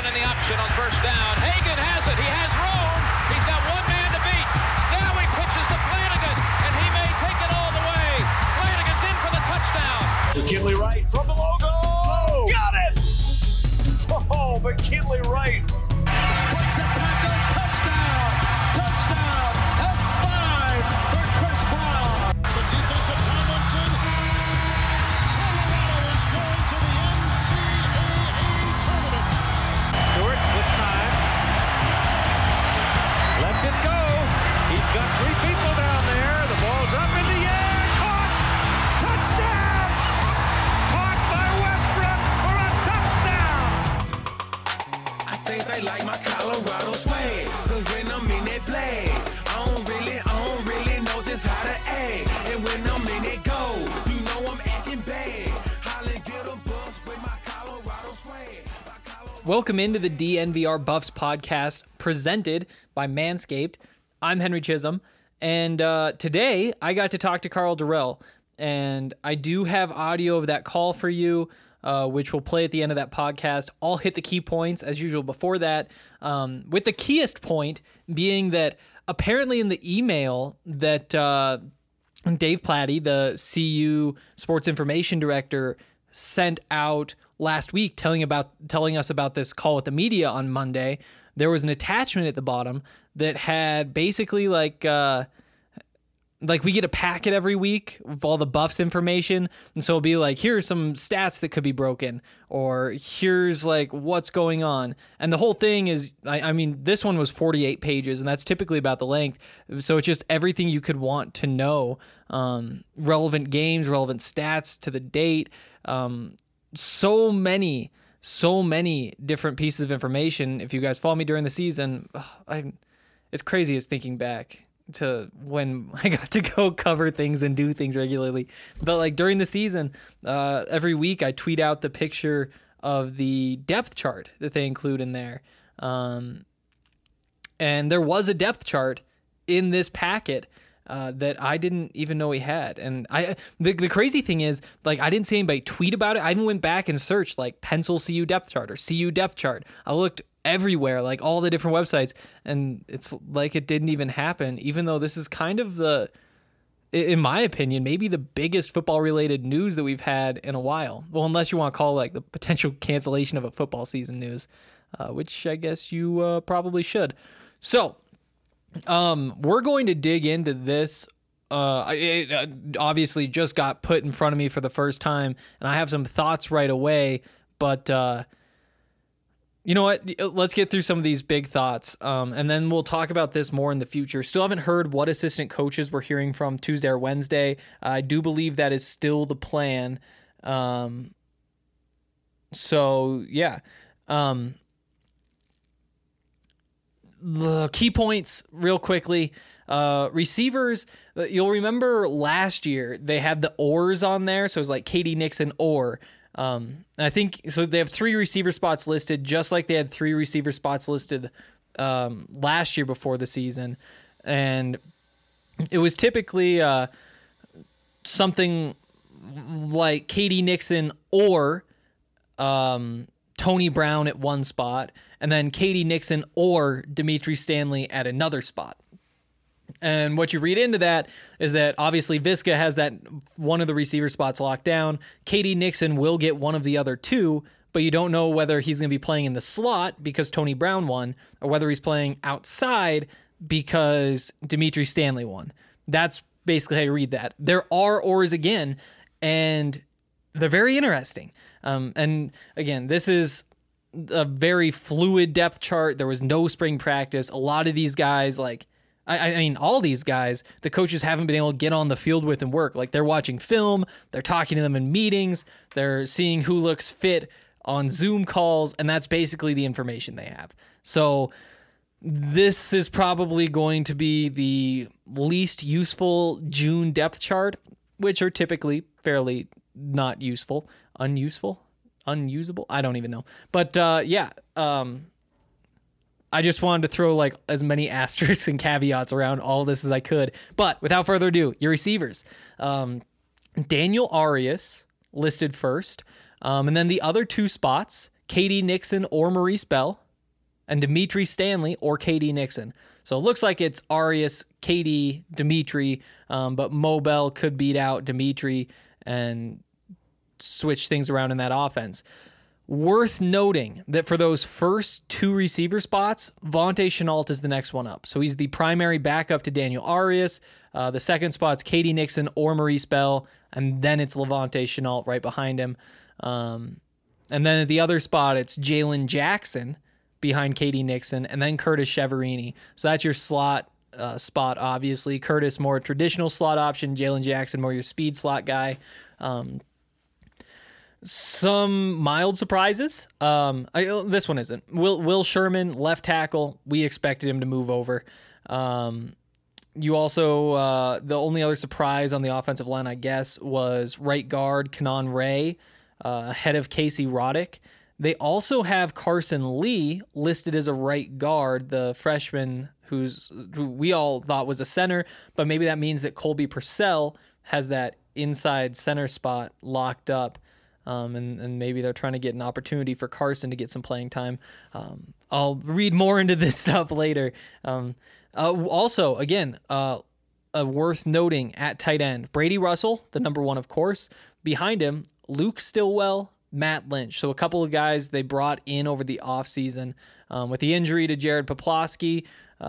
in the option on first down. Hagan has it. He has room. He's got one man to beat. Now he pitches to Flanagan, and he may take it all the way. Flanagan's in for the touchdown. McKinley Wright from the logo. Got it! Oh, McKinley Wright. Breaks a tackle. Touchdown. Touchdown. That's 5 for Chris Brown. The defensive Tomlinson. Colorado is going to the NCAA tournament. Stewart with time. Lets it go. He's got 3 people down there. The ball's up in the air. Caught. Touchdown. Caught by Westbrook for a touchdown. I think they like my Colorado swag, 'cause when I'm in that play, I don't really know just how to act. And when I'm in it go, you know I'm acting bad. Holly get a bus with my Colorado swag. Welcome into the DNVR Buffs podcast presented by Manscaped. I'm Henry Chisholm, and today I got to talk to Karl Dorrell, and I do have audio of that call for you, which will play at the end of that podcast. I'll hit the key points as usual before that, with the keyest point being that apparently in the email that Dave Platty, the CU Sports Information Director, sent out last week telling us about this call with the media on Monday, there was an attachment at the bottom that had basically like we get a packet every week of all the Buffs information, and so it'll be like, here's some stats that could be broken, or here's like what's going on. And the whole thing is, I mean, this one was 48 pages, and that's typically about the length, so it's just everything you could want to know, relevant games, relevant stats to the date, so many different pieces of information. If you guys follow me during the season, it's crazy as thinking back to when I got to go cover things and do things regularly. But like during the season, every week I tweet out the picture of the depth chart that they include in there. And there was a depth chart in this packet that I didn't even know he had. And the crazy thing is, like, I didn't see anybody tweet about it. I even went back and searched like pencil CU depth chart or CU depth chart. I looked everywhere, like all the different websites, and it's like it didn't even happen, even though this is kind of in my opinion, maybe the biggest football related news that we've had in a while. Well, unless you want to call like the potential cancellation of a football season news, which I guess you probably should. So we're going to dig into this. It obviously just got put in front of me for the first time, and I have some thoughts right away, but you know what? Let's get through some of these big thoughts, and then we'll talk about this more in the future. Still haven't heard what assistant coaches we're hearing from Tuesday or Wednesday. I do believe that is still the plan. So, yeah. The key points real quickly. Receivers, you'll remember last year they had the oars on there, so it was like Katie Nixon or. I think so. They have 3 receiver spots listed, just like they had 3 receiver spots listed last year before the season, and it was typically something like Katie Nixon or Tony Brown at one spot, and then Katie Nixon or Dimitri Stanley at another spot. And what you read into that is that obviously Viska has that one of the receiver spots locked down. Katie Nixon will get one of the other 2, but you don't know whether he's going to be playing in the slot because Tony Brown won, or whether he's playing outside because Dimitri Stanley won. That's basically how you read that. There are oars again, and they're very interesting. And again, this is a very fluid depth chart. There was no spring practice. A lot of these guys, I mean, all these guys, the coaches haven't been able to get on the field with and work. Like, they're watching film, they're talking to them in meetings, they're seeing who looks fit on Zoom calls, and that's basically the information they have. So this is probably going to be the least useful June depth chart, which are typically fairly not useful, unusable. I don't even know. But I just wanted to throw like as many asterisks and caveats around all this as I could. But without further ado, your receivers. Daniel Arias listed first. And then the other 2 spots, KD Nixon or Maurice Bell, and Dimitri Stanley or KD Nixon. So it looks like it's Arias, KD, Dimitri, but Mo Bell could beat out Dimitri and switch things around in that offense. Worth noting that for those first 2 receiver spots, Vontae Chenault is the next one up. So he's the primary backup to Daniel Arias. The second spot's KD Nixon or Maurice Bell, and then it's Levante Chenault right behind him. And then at the other spot, it's Jalen Jackson behind KD Nixon, and then Curtis Cheverini. So that's your slot spot, obviously. Curtis, more traditional slot option. Jalen Jackson, more your speed slot guy. Some mild surprises. This one isn't. Will Sherman, left tackle. We expected him to move over. You also, the only other surprise on the offensive line, I guess, was right guard Kanan Ray, ahead of Casey Roddick. They also have Carson Lee listed as a right guard, the freshman who we all thought was a center, but maybe that means that Colby Purcell has that inside center spot locked up. And maybe they're trying to get an opportunity for Carson to get some playing time. I'll read more into this stuff later. Also, again, worth noting at tight end, Brady Russell, the number 1, of course. Behind him, Luke Stillwell, Matt Lynch. So a couple of guys they brought in over the offseason. With the injury to Jared Poplawski,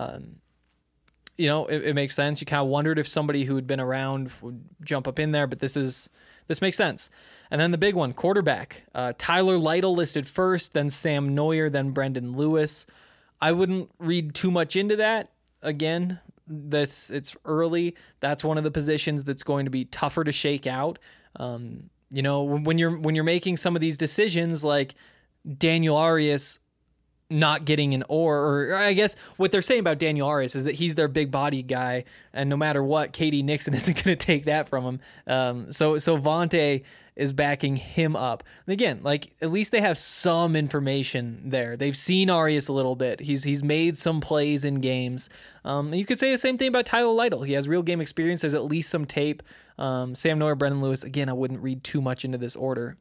it makes sense. You kind of wondered if somebody who had been around would jump up in there, but this makes sense. And then the big one, quarterback. Tyler Lytle listed first, then Sam Neuer, then Brendan Lewis. I wouldn't read too much into that. Again, it's early. That's one of the positions that's going to be tougher to shake out. When you're making some of these decisions, like Daniel Arias not getting an or I guess what they're saying about Daniel Arias is that he's their big body guy, and no matter what, KD Nixon isn't going to take that from him. So Vontae is backing him up. And again, like, at least they have some information there. They've seen Arias a little bit. He's made some plays in games. You could say the same thing about Tyler Lytle. He has real game experience. There's at least some tape. Sam Neuer, Brendan Lewis. Again, I wouldn't read too much into this order.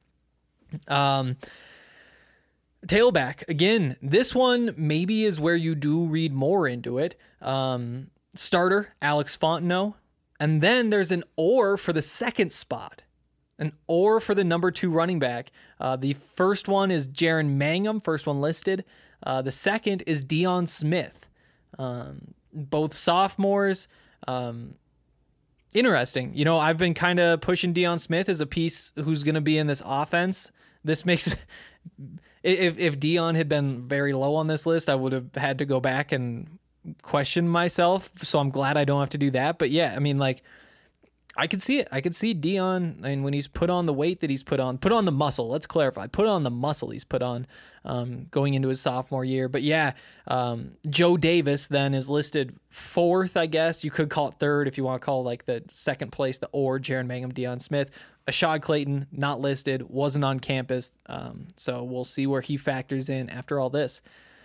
Tailback. Again, this one maybe is where you do read more into it. Starter, Alex Fontenot. And then there's an or for the second spot. An or for the number 2 running back. The first one is Jaron Mangum, first one listed. The second is Deion Smith. Both sophomores. Interesting. I've been kind of pushing Deion Smith as a piece who's going to be in this offense. This makes... If Deion had been very low on this list, I would have had to go back and question myself. So I'm glad I don't have to do that. But yeah, I mean, like, I could see it. I could see Deion, and when he's put on the weight that he's put on the muscle. Let's clarify. Put on the muscle he's put on going into his sophomore year. But yeah, Joe Davis then is listed 4th, I guess. You could call it 3rd if you want to call like the second place, the or Jaron Mangum, Deion Smith. Ashad Clayton, not listed, wasn't on campus. So we'll see where he factors in after all this.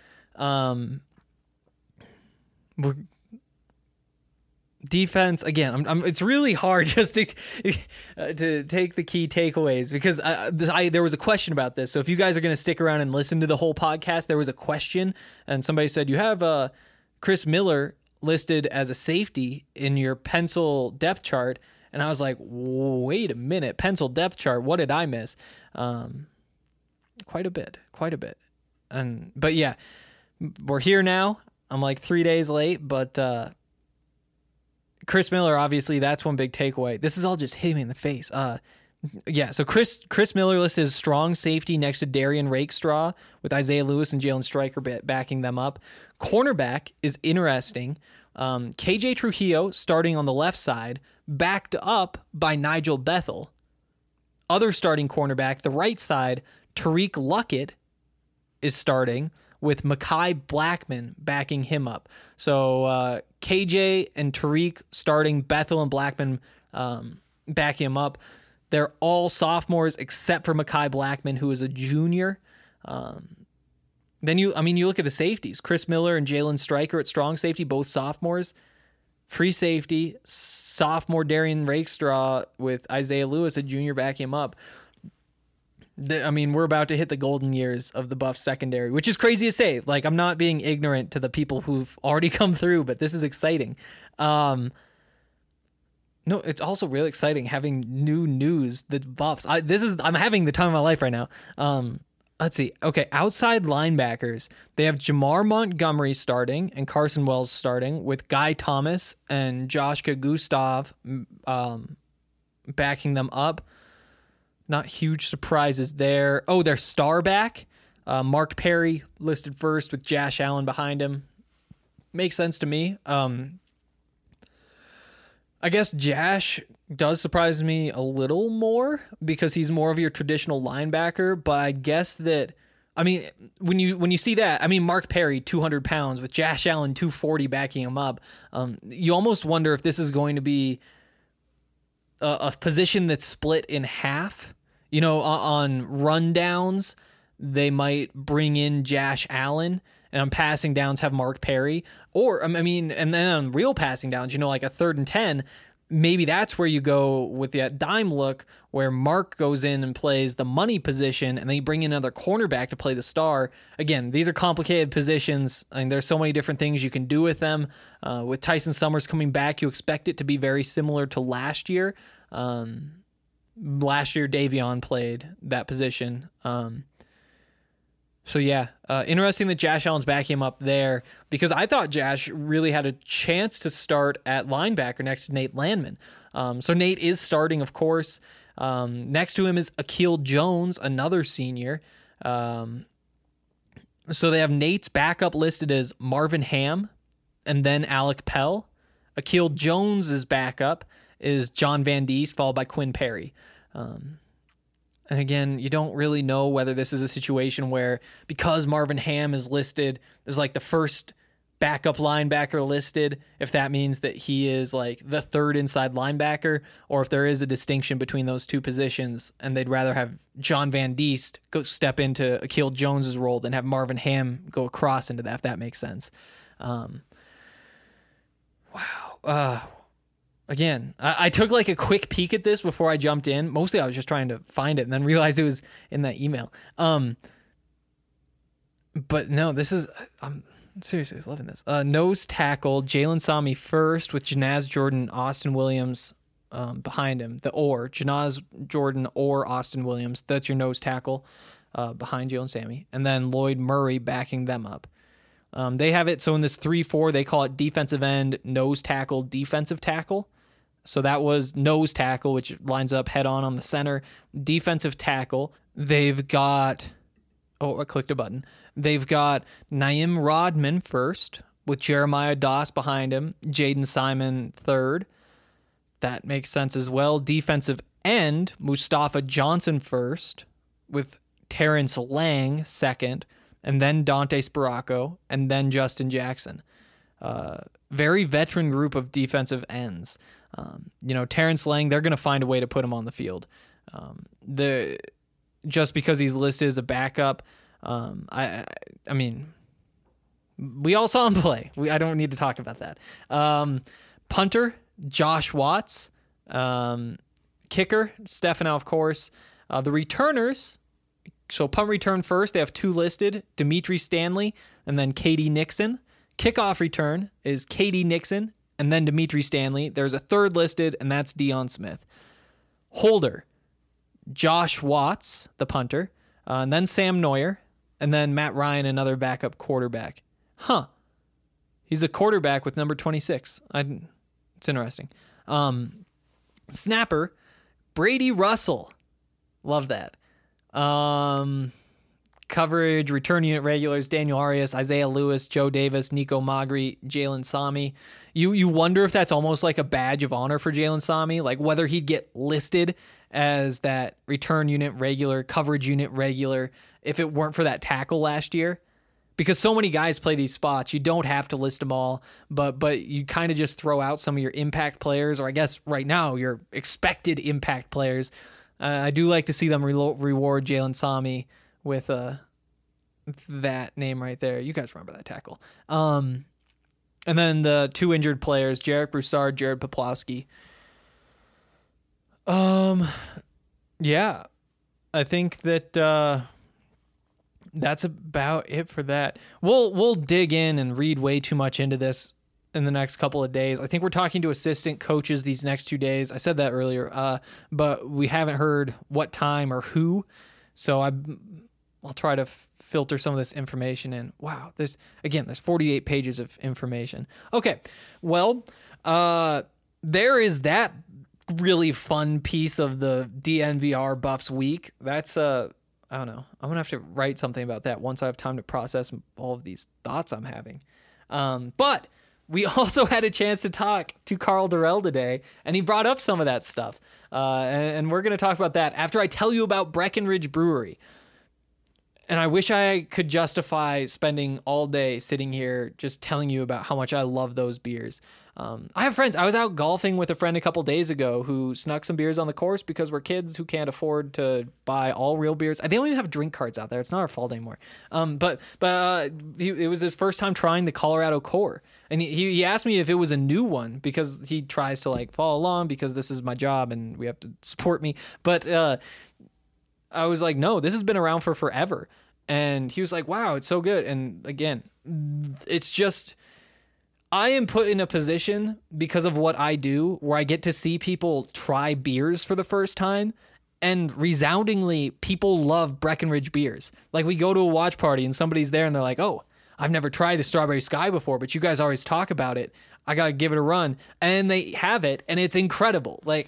Defense, again, it's really hard just to take the key takeaways because there was a question about this. So if you guys are going to stick around and listen to the whole podcast, there was a question and somebody said, you have Chris Miller listed as a safety in your pencil depth chart. And I was like, wait a minute, pencil depth chart. What did I miss? Quite a bit. But yeah, we're here now. I'm like 3 days late, but Chris Miller, obviously, that's one big takeaway. This is all just hitting me in the face. So Chris Miller listed as strong safety next to Darian Rakestraw with Isaiah Lewis and Jalen Stryker backing them up. Cornerback is interesting. KJ Trujillo starting on the left side, backed up by Nigel Bethel. Other starting cornerback, the right side, Tariq Luckett is starting with Mekhi Blackman backing him up. So KJ and Tariq starting, Bethel and Blackman backing him up. They're all sophomores except for Mekhi Blackman, who is a junior. Then you look at the safeties. Chris Miller and Jalen Stryker at strong safety, both sophomores. Free safety, sophomore Darian Rakestraw with Isaiah Lewis, a junior, backing him up. I mean, we're about to hit the golden years of the Buffs secondary, which is crazy to say. Like, I'm not being ignorant to the people who've already come through, but this is exciting. No, it's also really exciting having new news. The Buffs. I'm having the time of my life right now. Let's see. Okay, outside linebackers. They have Jamar Montgomery starting and Carson Wells starting, with Guy Thomas and Joshka Gustav backing them up. Not huge surprises there. Oh, their star back. Mark Perry listed first with Josh Allen behind him. Makes sense to me. I guess Josh does surprise me a little more because he's more of your traditional linebacker, but I guess that, I mean, when you see that, I mean, Mark Perry, 200 pounds, with Josh Allen, 240 backing him up, you almost wonder if this is going to be a position that's split in half. You know, on rundowns, they might bring in Josh Allen, and on passing downs have Mark Perry. Or, I mean, and then on real passing downs, you know, like a 3rd and 10, maybe that's where you go with that dime look where Mark goes in and plays the money position, and then you bring in another cornerback to play the star. Again, these are complicated positions. I mean, there's so many different things you can do with them. With Tyson Summers coming back, you expect it to be very similar to last year. Last year, Davion played that position. So yeah, interesting that Josh Allen's backing him up there, because I thought Josh really had a chance to start at linebacker next to Nate Landman. So Nate is starting, of course. Next to him is Akil Jones, another senior. So they have Nate's backup listed as Marvin Ham and then Alec Pell. Akil Jones's backup is John Van Diest, followed by Quinn Perry. And again, you don't really know whether this is a situation where, because Marvin Ham is listed as like the first backup linebacker listed, if that means that he is like the 3rd inside linebacker, or if there is a distinction between those two positions and they'd rather have John Van Diest go step into Akil Jones's role than have Marvin Ham go across into that, if that makes sense. Wow. Again, I took like a quick peek at this before I jumped in. Mostly I was just trying to find it and then realized it was in that email. But no, this is, I'm seriously loving this. Nose tackle, Jalen Sami first, with Janaz Jordan, Austin Williams behind him. Janaz Jordan or Austin Williams. That's your nose tackle behind Jalen Sami. And then Lloyd Murray backing them up. They have it, so in this 3-4, they call it defensive end, nose tackle, defensive tackle. So that was nose tackle, which lines up head on the center. Defensive tackle, they've got, I clicked a button. They've got Naim Rodman first, with Jeremiah Doss behind him, Jaden Simon third. That makes sense as well. Defensive end, Mustafa Johnson first, with Terrence Lang second, and then Dante Sparaco, and then Justin Jackson. Very veteran group of defensive ends. Terrence Lang, they're going to find a way to put him on the field. Just because he's listed as a backup, I mean, we all saw him play. I don't need to talk about that. Punter, Josh Watts. Kicker, Stefano, of course. The returners, so punt return first, they have 2 listed, Dimitri Stanley and then Katie Nixon. Kickoff return is Katie Nixon and then Dimitri Stanley. There's a 3rd listed, and that's Deion Smith. Holder, Josh Watts, the punter, and then Sam Neuer, and then Matt Ryan, another backup quarterback. He's a quarterback with number 26. It's interesting. Snapper, Brady Russell. Love that. Coverage, return unit regulars, Daniel Arias, Isaiah Lewis, Joe Davis, Nico Magri, Jalen Sami. You wonder if that's almost like a badge of honor for Jalen Sami, like whether he'd get listed as that return unit regular, coverage unit regular, if it weren't for that tackle last year. Because so many guys play these spots, you don't have to list them all, but you kind of just throw out some of your impact players, or I guess right now your expected impact players. I do like to see them reward Jalen Sami with that name right there. You guys remember that tackle. And then the 2 injured players, Jarek Broussard, Jared Poplowski. Yeah. I think that that's about it for that. We'll dig in and read way too much into this in the next couple of days. I think we're talking to assistant coaches these next 2 days. I said that earlier, but we haven't heard what time or who. So I'll try to filter some of this information in. Wow, there's 48 pages of information. Okay, well, there is that really fun piece of the DNVR Buffs week. That's I don't know. I'm gonna have to write something about that once I have time to process all of these thoughts I'm having. But we also had a chance to talk to Karl Dorrell today, and he brought up some of that stuff. And we're gonna talk about that after I tell you about Breckenridge Brewery. And I wish I could justify spending all day sitting here just telling you about how much I love those beers. I have friends. I was out golfing with a friend a couple days ago who snuck some beers on the course because we're kids who can't afford to buy all real beers. They don't even have drink cards out there. It's not our fault anymore. But it was his first time trying the Colorado Core. And he asked me if it was a new one because he tries to like follow along because this is my job and we have to support me. But I was like, no, this has been around for forever. And he was like, wow, it's so good. And again, it's just, I am put in a position because of what I do where I get to see people try beers for the first time. And resoundingly, people love Breckenridge beers. Like we go to a watch party and somebody's there and they're like, oh, I've never tried the Strawberry Sky before, but you guys always talk about it. I got to give it a run. And they have it and it's incredible. Like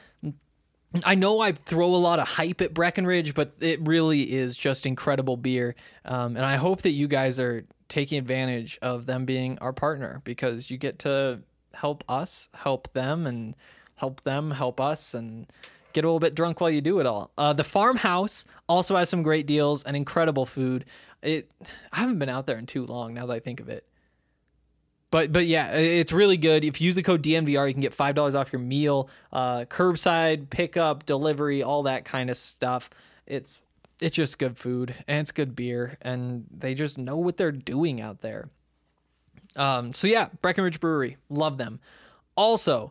I know I throw a lot of hype at Breckenridge, but it really is just incredible beer. And I hope that you guys are taking advantage of them being our partner because you get to help us, help them, and help them help us, and get a little bit drunk while you do it all. The Farmhouse also has some great deals and incredible food. I haven't been out there in too long now that I think of it. But yeah, it's really good. If you use the code DNVR, you can get $5 off your meal, curbside, pickup, delivery, all that kind of stuff. It's just good food and it's good beer and they just know what they're doing out there. So yeah, Breckenridge Brewery, love them. Also,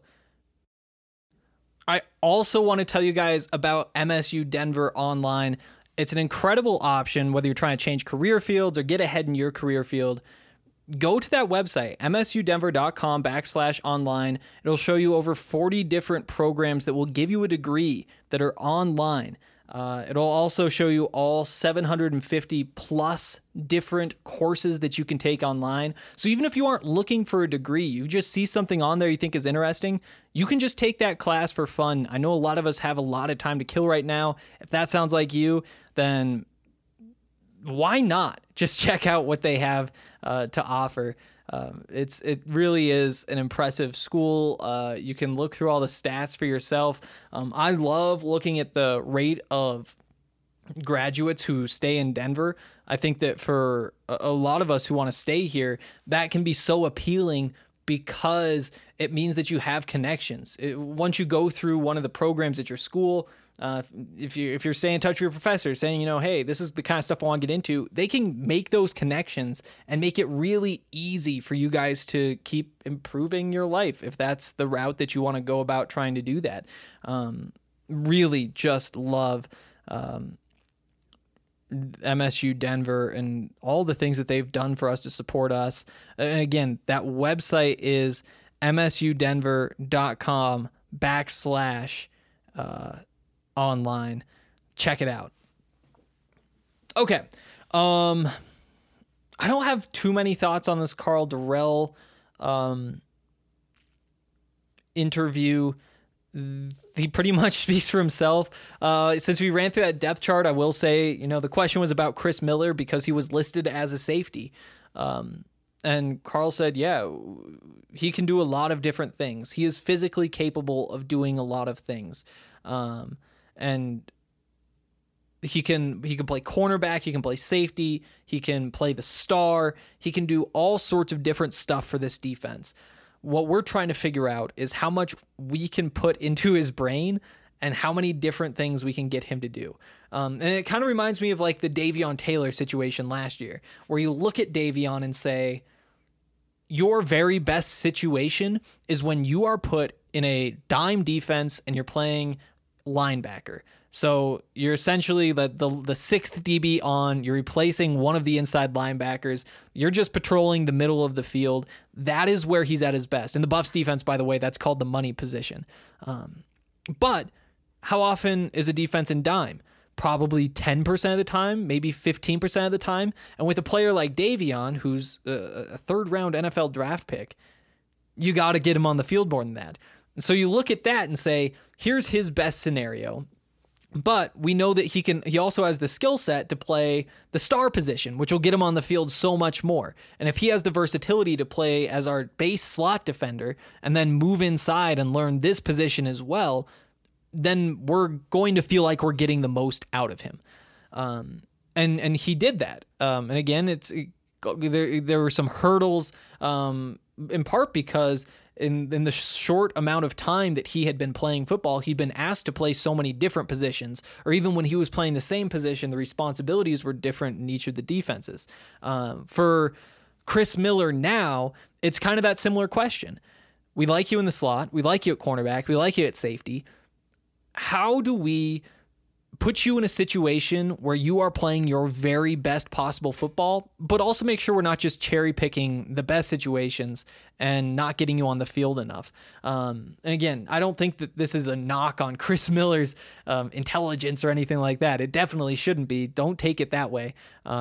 I also want to tell you guys about MSU Denver Online. It's an incredible option whether you're trying to change career fields or get ahead in your career field. Go to that website, msudenver.com/online. It'll show you over 40 different programs that will give you a degree that are online. It'll also show you all 750 plus different courses that you can take online. So even if you aren't looking for a degree, you just see something on there you think is interesting, you can just take that class for fun. I know a lot of us have a lot of time to kill right now. If that sounds like you, then why not just check out what they have to offer? It really is an impressive school. You can look through all the stats for yourself. I love looking at the rate of graduates who stay in Denver. I think that for a lot of us who want to stay here, that can be so appealing because it means that you have connections. Once you go through one of the programs at your school, if you're staying in touch with your professor saying, hey, this is the kind of stuff I want to get into, they can make those connections and make it really easy for you guys to keep improving your life if that's the route that you want to go about trying to do that. Really just love MSU Denver and all the things that they've done for us to support us. And again, that website is msudenver.com/online. Check it out. Okay. I don't have too many thoughts on this Karl Dorrell interview. He pretty much speaks for himself. Since we ran through that depth chart, I will say, the question was about Chris Miller because he was listed as a safety. And Karl said, yeah, he can do a lot of different things. He is physically capable of doing a lot of things. And he can play cornerback, he can play safety, he can play the star, he can do all sorts of different stuff for this defense. What we're trying to figure out is how much we can put into his brain and how many different things we can get him to do. And it kind of reminds me of like the Davion Taylor situation last year, where you look at Davion and say, your very best situation is when you are put in a dime defense and you're playing linebacker. So you're essentially the sixth DB on. You're replacing one of the inside linebackers. You're just patrolling the middle of the field. That is where he's at his best. In the Buffs defense, by the way, that's called the money position. But how often is a defense in dime? Probably 10% of the time, maybe 15% of the time. And with a player like Davion, who's a third-round NFL draft pick, you got to get him on the field more than that. And so you look at that and say, here's his best scenario. But we know that he also has the skill set to play the star position, which will get him on the field so much more. And if he has the versatility to play as our base slot defender and then move inside and learn this position as well, then we're going to feel like we're getting the most out of him. And he did that. And again, there were some hurdles, in part because in the short amount of time that he had been playing football, he'd been asked to play so many different positions, or even when he was playing the same position, the responsibilities were different in each of the defenses. For Chris Miller now, it's kind of that similar question. We like you in the slot. We like you at cornerback. We like you at safety. How do we put you in a situation where you are playing your very best possible football, but also make sure we're not just cherry picking the best situations and not getting you on the field enough? And again, I don't think that this is a knock on Chris Miller's intelligence or anything like that. It definitely shouldn't be. Don't take it that way.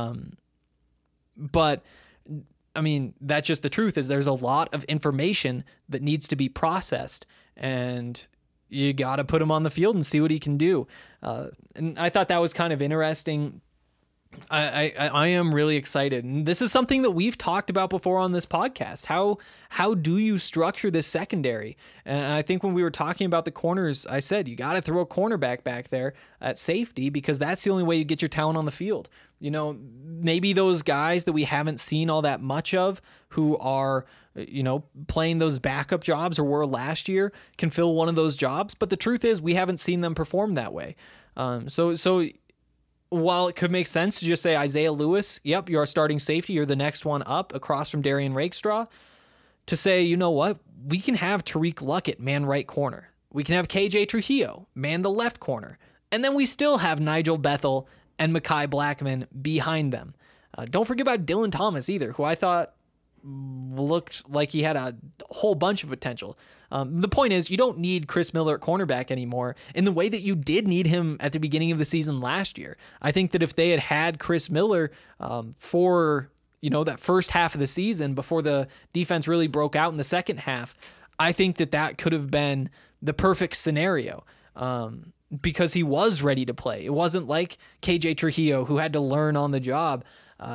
But I mean, that's just the truth, is there's a lot of information that needs to be processed, and you got to put him on the field and see what he can do. And I thought that was kind of interesting. I am really excited. And this is something that we've talked about before on this podcast. How do you structure this secondary? And I think when we were talking about the corners, I said, you got to throw a cornerback back there at safety, because that's the only way you get your talent on the field. You know, maybe those guys that we haven't seen all that much of, who are, you know, playing those backup jobs or were last year, can fill one of those jobs. But the truth is, we haven't seen them perform that way. So while it could make sense to just say Isaiah Lewis, yep, you're our starting safety, you're the next one up across from Darian Rakestraw, to say, you know what, we can have Tariq Luckett man right corner. We can have KJ Trujillo man the left corner. And then we still have Nigel Bethel and Mekhi Blackman behind them. Don't forget about Dylan Thomas either, who I thought looked like he had a whole bunch of potential. The point is, you don't need Chris Miller at cornerback anymore in the way that you did need him at the beginning of the season last year. I think that if they had had Chris Miller for, you know, that first half of the season before the defense really broke out in the second half, I think that could have been the perfect scenario. Because he was ready to play. It wasn't like KJ Trujillo, who had to learn on the job.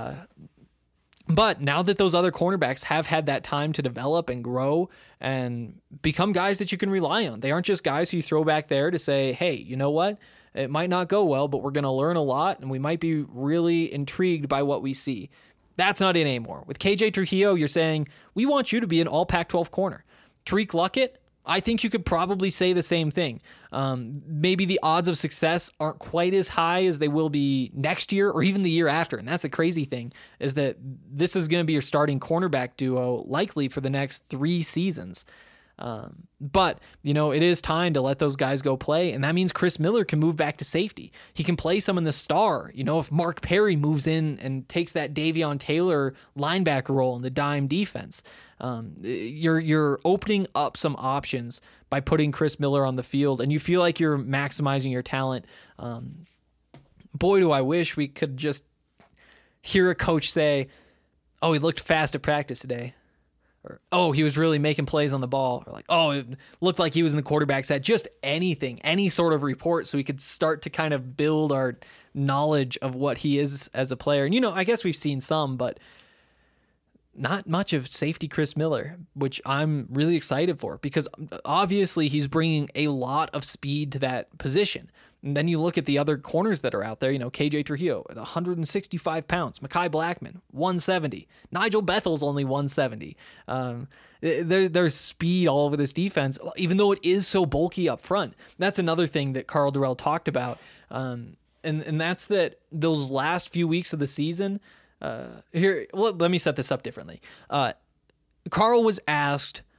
But now that those other cornerbacks have had that time to develop and grow and become guys that you can rely on, they aren't just guys who you throw back there to say, hey, you know what? It might not go well, but we're going to learn a lot, and we might be really intrigued by what we see. That's not it anymore. With KJ Trujillo, you're saying, we want you to be an all Pac-12 corner. Tariq Luckett, I think you could probably say the same thing. Maybe the odds of success aren't quite as high as they will be next year or even the year after. And that's the crazy thing, is that this is going to be your starting cornerback duo likely for the next 3 seasons. But, you know, it is time to let those guys go play. And that means Chris Miller can move back to safety. He can play some in the star. You know, if Mark Perry moves in and takes that Davion Taylor linebacker role in the dime defense, you're opening up some options by putting Chris Miller on the field, and you feel like you're maximizing your talent. Boy, do I wish we could just hear a coach say, oh, he looked fast at practice today. Or, oh, he was really making plays on the ball. Or like, oh, it looked like he was in the quarterback set. Just anything, any sort of report, so we could start to kind of build our knowledge of what he is as a player. And, you know, I guess we've seen some, but not much of safety Chris Miller, which I'm really excited for, because obviously he's bringing a lot of speed to that position. And then you look at the other corners that are out there, you know, KJ Trujillo at 165 pounds, Mekhi Blackman, 170, Nigel Bethel's only 170. There's speed all over this defense, even though it is so bulky up front. That's another thing that Karl Dorrell talked about. And that's that those last few weeks of the season, let me set this up differently. Karl was asked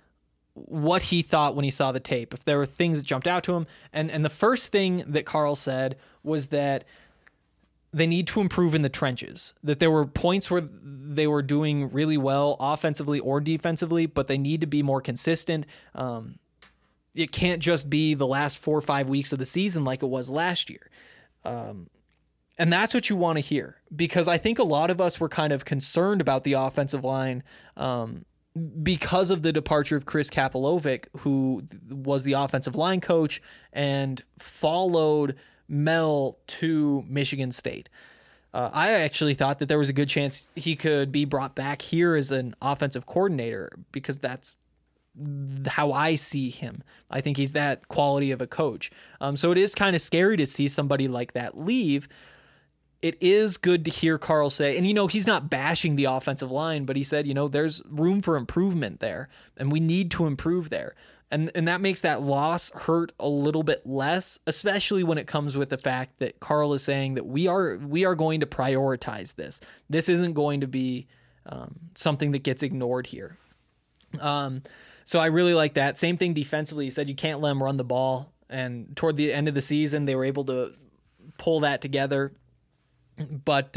what he thought when he saw the tape, if there were things that jumped out to him. And the first thing that Carl said was that they need to improve in the trenches, that there were points where they were doing really well offensively or defensively, but they need to be more consistent. It can't just be the last 4 or 5 weeks of the season like it was last year. And that's what you want to hear, because I think a lot of us were kind of concerned about the offensive line because of the departure of Chris Kapilovic, who was the offensive line coach and followed Mel to Michigan State. I actually thought that there was a good chance he could be brought back here as an offensive coordinator, because that's how I see him. I think he's that quality of a coach. So it is kind of scary to see somebody like that leave. It is good to hear Carl say, and he's not bashing the offensive line, but he said, there's room for improvement there, and we need to improve there. And that makes that loss hurt a little bit less, especially when it comes with the fact that Carl is saying that we are going to prioritize this. This isn't going to be something that gets ignored here. So I really like that. Same thing defensively. He said you can't let them run the ball. And toward the end of the season, they were able to pull that together. But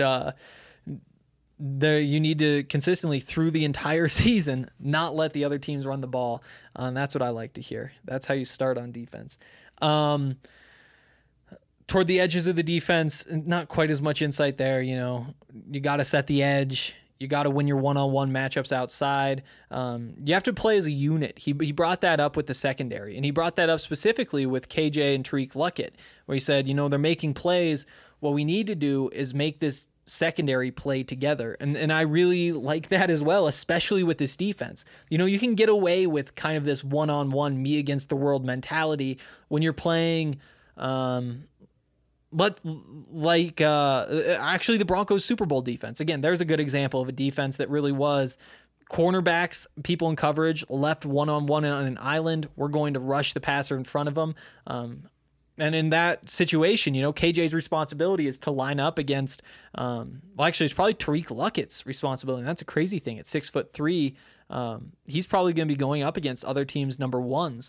you need to consistently through the entire season not let the other teams run the ball. And that's what I like to hear. That's how you start on defense. Toward the edges of the defense, not quite as much insight there. You got to set the edge. You got to win your one-on-one matchups outside. You have to play as a unit. He brought that up with the secondary, and he brought that up specifically with KJ and Tariq Luckett, where he said, they're making plays. What we need to do is make this secondary play together. And I really like that as well, especially with this defense. You can get away with kind of this one-on-one me against the world mentality when you're playing actually the Broncos Super Bowl defense. Again, there's a good example of a defense that really was cornerbacks, people in coverage, left one-on-one on an island. We're going to rush the passer in front of them. And in that situation, KJ's responsibility is to line up against, it's probably Tariq Luckett's responsibility. And that's a crazy thing. At 6'3", he's probably going to be going up against other teams' number ones.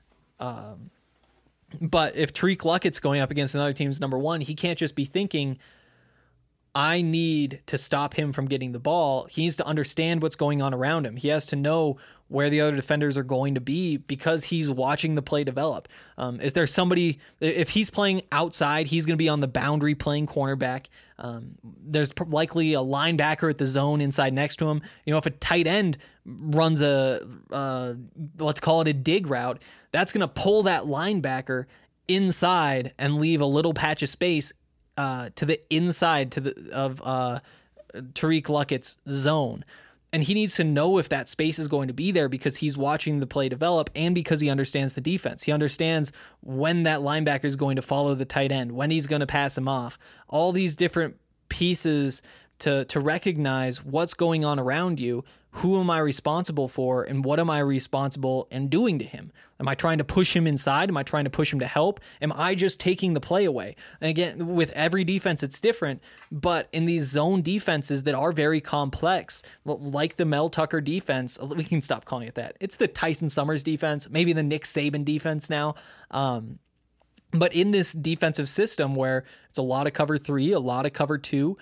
But if Tariq Luckett's going up against another team's number one, he can't just be thinking, I need to stop him from getting the ball. He needs to understand what's going on around him. He has to know where the other defenders are going to be because he's watching the play develop. Is there somebody, if he's playing outside, he's going to be on the boundary playing cornerback. There's likely a linebacker at the zone inside next to him. If a tight end runs let's call it a dig route, that's going to pull that linebacker inside and leave a little patch of space to the inside of Tariq Luckett's zone. And he needs to know if that space is going to be there because he's watching the play develop and because he understands the defense. He understands when that linebacker is going to follow the tight end, when he's going to pass him off. All these different pieces to recognize what's going on around you. Who am I responsible for, and what am I responsible in doing to him? Am I trying to push him inside? Am I trying to push him to help? Am I just taking the play away? And again, with every defense, it's different, but in these zone defenses that are very complex, like the Mel Tucker defense, we can stop calling it that. It's the Tyson Summers defense, maybe the Nick Saban defense now. But in this defensive system where it's a lot of cover 3, a lot of cover 2,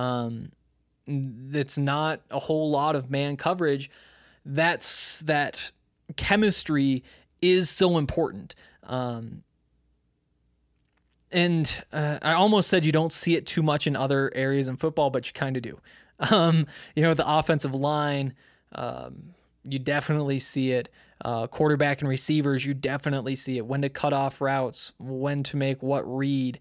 it's not a whole lot of man coverage, that chemistry is so important. And I almost said you don't see it too much in other areas in football, but you kind of do. The offensive line, you definitely see it. Quarterback and receivers, you definitely see it. When to cut off routes, when to make what read.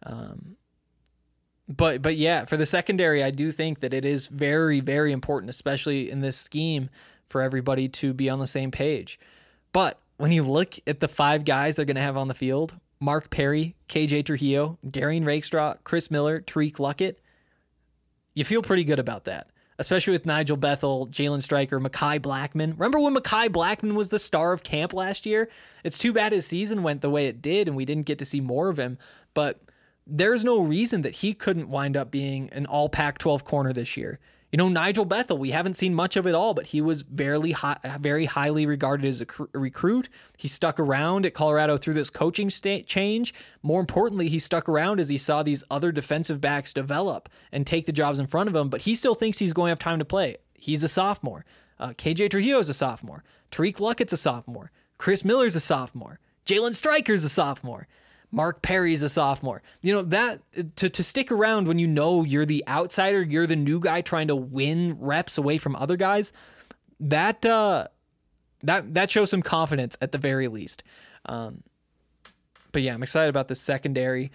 But yeah, for the secondary, I do think that it is very, very important, especially in this scheme, for everybody to be on the same page. But when you look at the 5 guys they're going to have on the field, Mark Perry, KJ Trujillo, Darian Rakestraw, Chris Miller, Tariq Luckett, you feel pretty good about that, especially with Nigel Bethel, Jalen Stryker, Mekhi Blackman. Remember when Mekhi Blackman was the star of camp last year? It's too bad his season went the way it did and we didn't get to see more of him, but there's no reason that he couldn't wind up being an all Pac-12 corner this year. Nigel Bethel, we haven't seen much of it all, but he was very highly regarded as a recruit. He stuck around at Colorado through this coaching change. More importantly, he stuck around as he saw these other defensive backs develop and take the jobs in front of him, but he still thinks he's going to have time to play. He's a sophomore. KJ Trujillo's a sophomore. Tariq Luckett's a sophomore. Chris Miller's a sophomore. Jalen Stryker's a sophomore. Mark Perry's a sophomore. That to stick around when you're the outsider, you're the new guy trying to win reps away from other guys, that shows some confidence at the very least. But yeah, I'm excited about the secondary.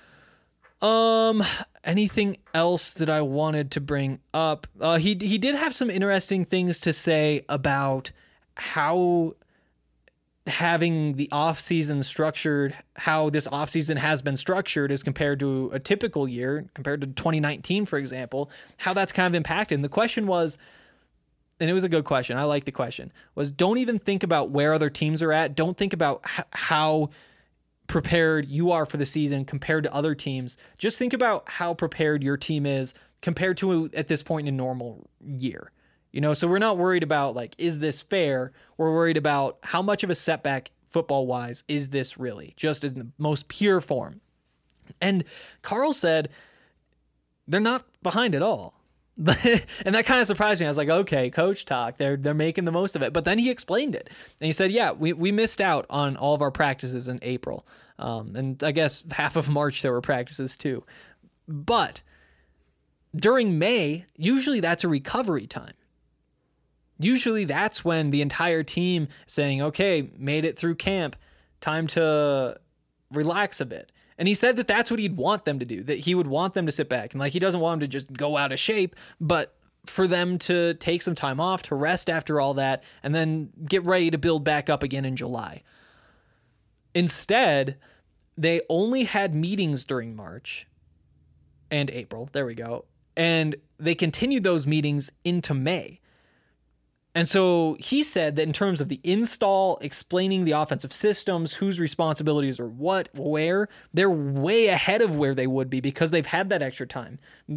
Anything else that I wanted to bring up? He did have some interesting things to say about how having the offseason structured, how this offseason has been structured as compared to a typical year, compared to 2019, for example, how that's kind of impacted. And the question was, and it was a good question, I like the question, was don't even think about where other teams are at. Don't think about how prepared you are for the season compared to other teams. Just think about how prepared your team is compared to at this point in a normal year. So we're not worried about is this fair? We're worried about how much of a setback football wise is this really, just in the most pure form. And Carl said they're not behind at all. And that kind of surprised me. I was like, okay, coach talk. They're making the most of it. But then he explained it. And he said, yeah, we missed out on all of our practices in April. And I guess half of March there were practices too. But during May, usually that's a recovery time. Usually that's when the entire team is saying, okay, made it through camp, time to relax a bit. And he said that that's what he'd want them to do, that he would want them to sit back. And he doesn't want them to just go out of shape, but for them to take some time off, to rest after all that, and then get ready to build back up again in July. Instead, they only had meetings during March and April. There we go. And they continued those meetings into May. And so he said that in terms of the install, explaining the offensive systems, whose responsibilities are what, where, they're way ahead of where they would be because they've had that extra time.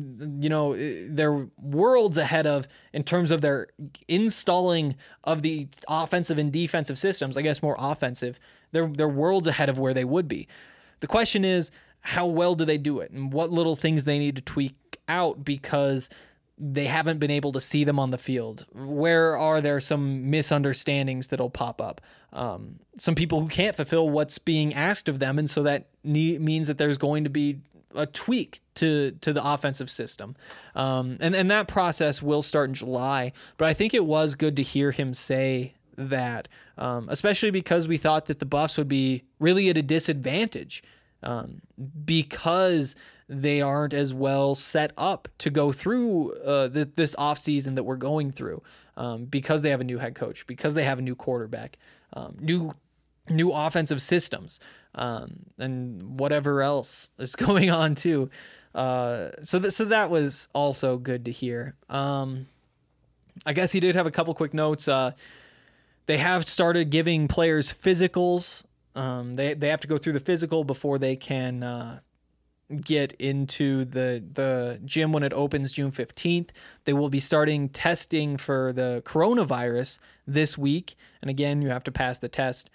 They're worlds ahead of in terms of their installing of the offensive and defensive systems. I guess more offensive. They're worlds ahead of where they would be. The question is, how well do they do it, and what little things they need to tweak out because they haven't been able to see them on the field. Where are there some misunderstandings that'll pop up? Some people who can't fulfill what's being asked of them, and so that means that there's going to be a tweak to the offensive system. And that process will start in July, but I think it was good to hear him say that, especially because we thought that the Buffs would be really at a disadvantage because they aren't as well set up to go through this offseason that we're going through because they have a new head coach, because they have a new quarterback, new offensive systems, and whatever else is going on too. So that was also good to hear. I guess he did have a couple quick notes. They have started giving players physicals. They have to go through the physical before they can get into the gym when it opens June 15th. They will be starting testing for the coronavirus this week. And again, you have to pass the test.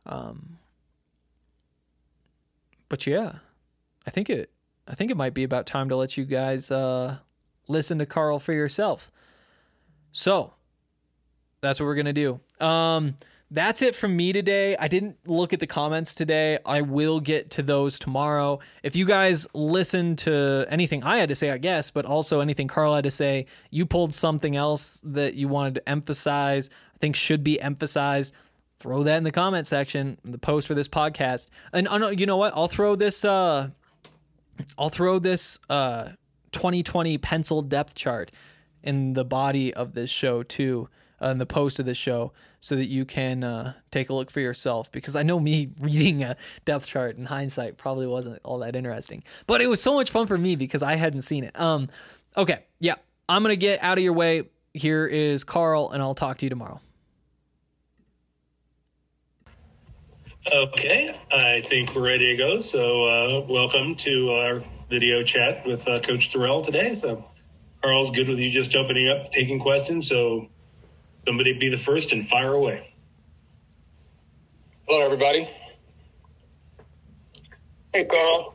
But yeah, I think it might be about time to let you guys listen to Carl for yourself. So that's what we're going to do. That's it from me today. I didn't look at the comments today. I will get to those tomorrow. If you guys listen to anything I had to say, I guess, but also anything Carl had to say, you pulled something else that you wanted to emphasize, I think should be emphasized, throw that in the comment section, the post for this podcast. And you know what? I'll throw this 2020 pencil depth chart in the body of this show too, in the post of this show, so that you can take a look for yourself, because I know me reading a depth chart in hindsight probably wasn't all that interesting, but it was so much fun for me because I hadn't seen it. Okay, yeah, I'm going to get out of your way. Here is Carl, and I'll talk to you tomorrow. Okay, I think we're ready to go. So welcome to our video chat with Coach Dorrell today. So Carl's good with you just opening up, taking questions. So somebody be the first and fire away. Hello, everybody. Hey, Carl.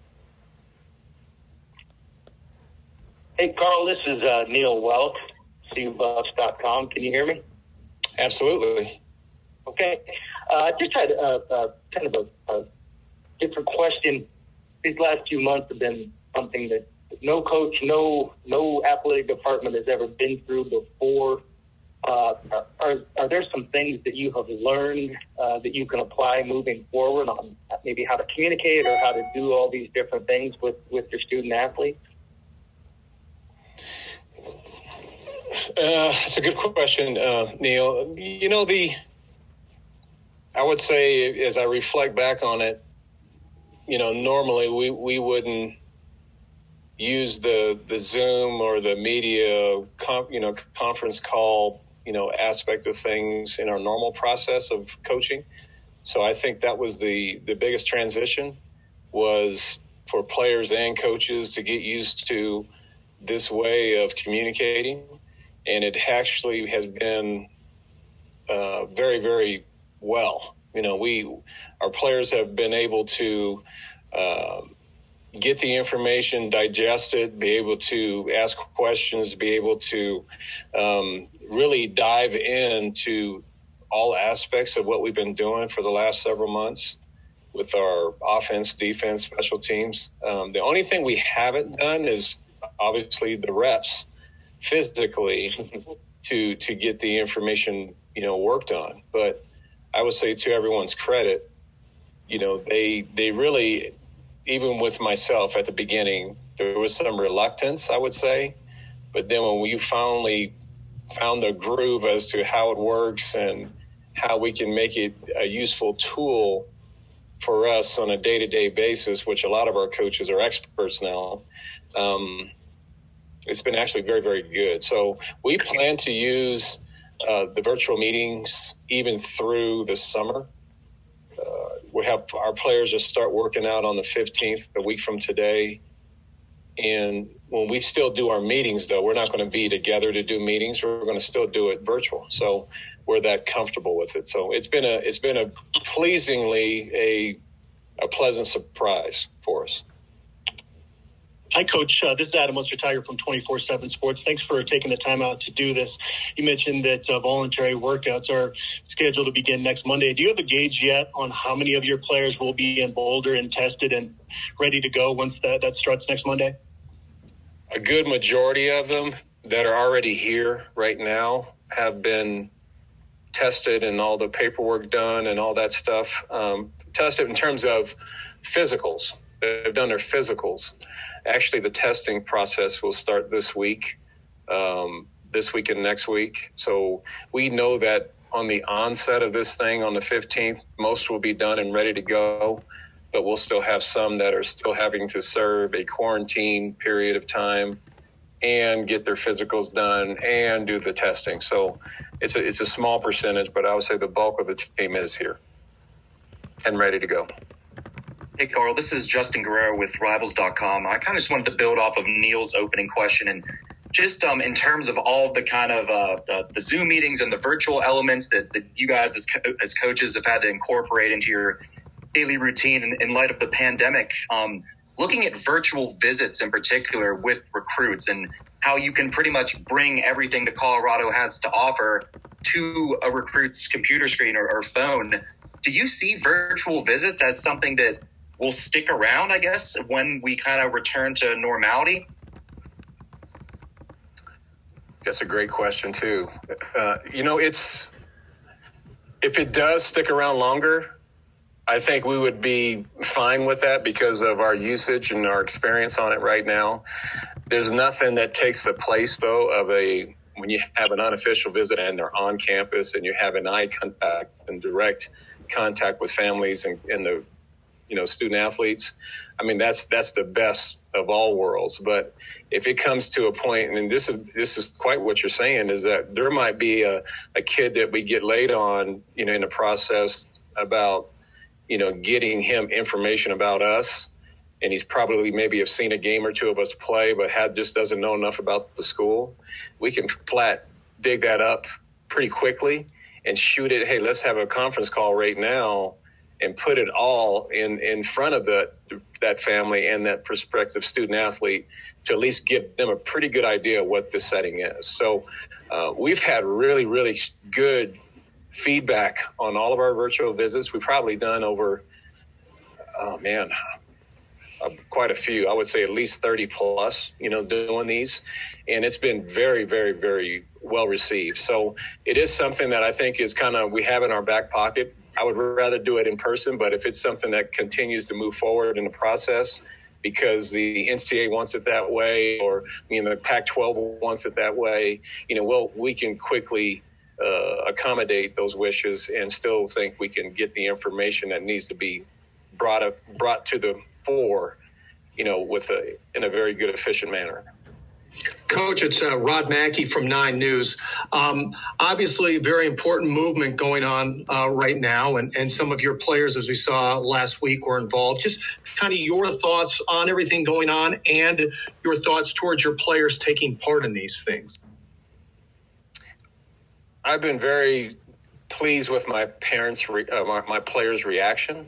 Hey, Carl, this is Neil Welk, CUBuffs.com. Can you hear me? Absolutely. Okay. I just had kind of a different question. These last few months have been something that no coach, no athletic department has ever been through before. Are there some things that you have learned that you can apply moving forward on maybe how to communicate or how to do all these different things with your student athletes? It's a good question, Neil. I would say as I reflect back on it, normally we wouldn't use the Zoom or the media, conference call, aspect of things in our normal process of coaching. So I think that was the biggest transition, was for players and coaches to get used to this way of communicating. And it actually has been very, very well. Our players have been able to get the information, digest it, be able to ask questions, be able to really dive into all aspects of what we've been doing for the last several months with our offense, defense, special teams. The only thing we haven't done is obviously the reps physically to get the information, worked on. But I would say, to everyone's credit, they really, even with myself at the beginning, there was some reluctance, I would say. But then when we finally found the groove as to how it works and how we can make it a useful tool for us on a day-to-day basis, which a lot of our coaches are experts now, it's been actually very, very good. So we plan to use the virtual meetings even through the summer. We have our players just start working out on the 15th, a week from today. And when we still do our meetings, though, we're not going to be together to do meetings. We're going to still do it virtual. So we're that comfortable with it. So it's been a pleasingly a pleasant surprise for us. Hi, Coach. This is Adam Ostertiger from 24/7 Sports. Thanks for taking the time out to do this. You mentioned that voluntary workouts are scheduled to begin next Monday. Do you have a gauge yet on how many of your players will be in Boulder and tested and ready to go once that starts next Monday? A good majority of them that are already here right now have been tested and all the paperwork done and all that stuff. Tested in terms of physicals. They've done their physicals. Actually, the testing process will start this week and next week. So we know that on the onset of this thing on the 15th, most will be done and ready to go, but we'll still have some that are still having to serve a quarantine period of time and get their physicals done and do the testing. So it's a small percentage, but I would say the bulk of the team is here and ready to go. Hey, Carl, this is Justin Guerrero with Rivals.com. I kind of just wanted to build off of Neil's opening question, and just in terms of all the kind of the Zoom meetings and the virtual elements that you guys as coaches have had to incorporate into your daily routine in light of the pandemic, looking at virtual visits in particular with recruits and how you can pretty much bring everything that Colorado has to offer to a recruit's computer screen or phone. Do you see virtual visits as something that will stick around, I guess, when we kind of return to normality? That's a great question, too. If it does stick around longer, I think we would be fine with that because of our usage and our experience on it right now. There's nothing that takes the place, though, of when you have an unofficial visit and they're on campus and you have an eye contact and direct contact with families and the student athletes. I mean, that's the best of all worlds. But if it comes to a point, and this is quite what you're saying, is that there might be a kid that we get late on, in the process about, getting him information about us. and he's probably maybe have seen a game or two of us play, but just doesn't know enough about the school, we can dig that up pretty quickly and shoot it. Hey, let's have a conference call right now and put it all in front of that family and that prospective student athlete to at least give them a pretty good idea of what the setting is. So we've had really, really good feedback on all of our virtual visits. We've probably done over, quite a few. I would say at least 30 plus, doing these. And it's been very, very, very well received. So it is something that I think is we have in our back pocket. I would rather do it in person, but if it's something that continues to move forward in the process because the NCAA wants it that way, or the Pac-12 wants it that way, we can quickly accommodate those wishes and still think we can get the information that needs to be brought to the fore, in a very good, efficient manner. Coach, it's Rod Mackey from 9 News. Obviously, very important movement going on right now, and some of your players, as we saw last week, were involved. Just kind of your thoughts on everything going on and your thoughts towards your players taking part in these things. I've been very pleased with my my players' reaction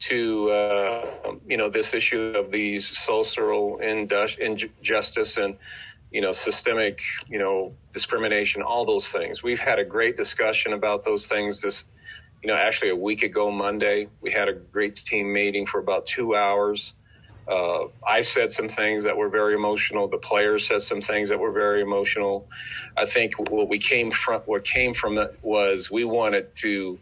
to this issue of these social injustice and systemic discrimination, all those things. We've had a great discussion about those things actually a week ago Monday. We had a great team meeting for about 2 hours. I said some things that were very emotional. The players said some things that were very emotional. I think what came from it was we wanted to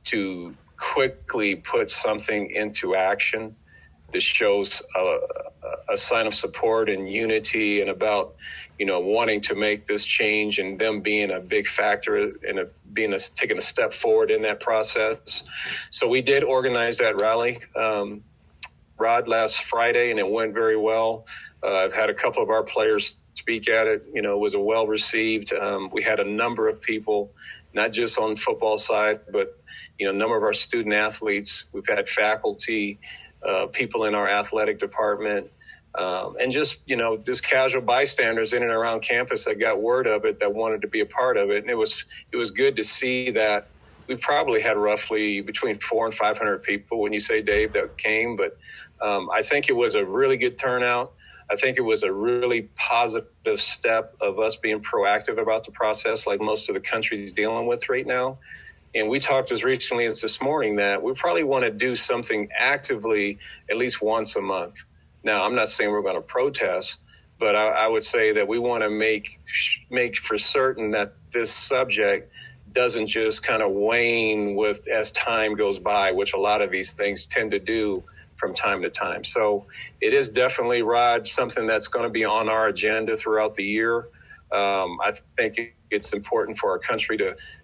quickly put something into action that shows a sign of support and unity and about, wanting to make this change and them being a big factor and taking a step forward in that process. So we did organize that rally, Rod, last Friday, and it went very well. I've had a couple of our players speak at it. It was a well received. We had a number of people, not just on the football side, but a number of our student athletes. We've had faculty, people in our athletic department, and just casual bystanders in and around campus that got word of it, that wanted to be a part of it. And it was good to see that we probably had roughly between 400 and 500 people, when you say, Dave, that came. But I think it was a really good turnout. I think it was a really positive step of us being proactive about the process, like most of the country is dealing with right now. And we talked as recently as this morning that we probably want to do something actively at least once a month. Now, I'm not saying we're going to protest, but I would say that we want to make for certain that this subject doesn't just kind of wane as time goes by, which a lot of these things tend to do from time to time. So it is definitely, Rod, something that's going to be on our agenda throughout the year. I think it's important for our country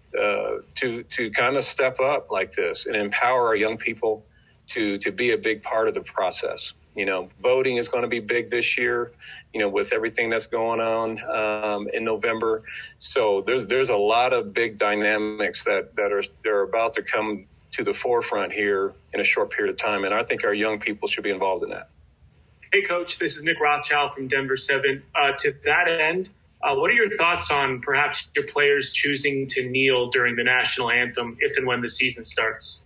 to kind of step up like this and empower our young people to be a big part of the process. Voting is going to be big this year, with everything that's going on in November. So there's a lot of big dynamics that are about to come to the forefront here in a short period of time. And I think our young people should be involved in that. Hey, Coach, this is Nick Rothschild from Denver 7. To that end, what are your thoughts on perhaps your players choosing to kneel during the national anthem if and when the season starts?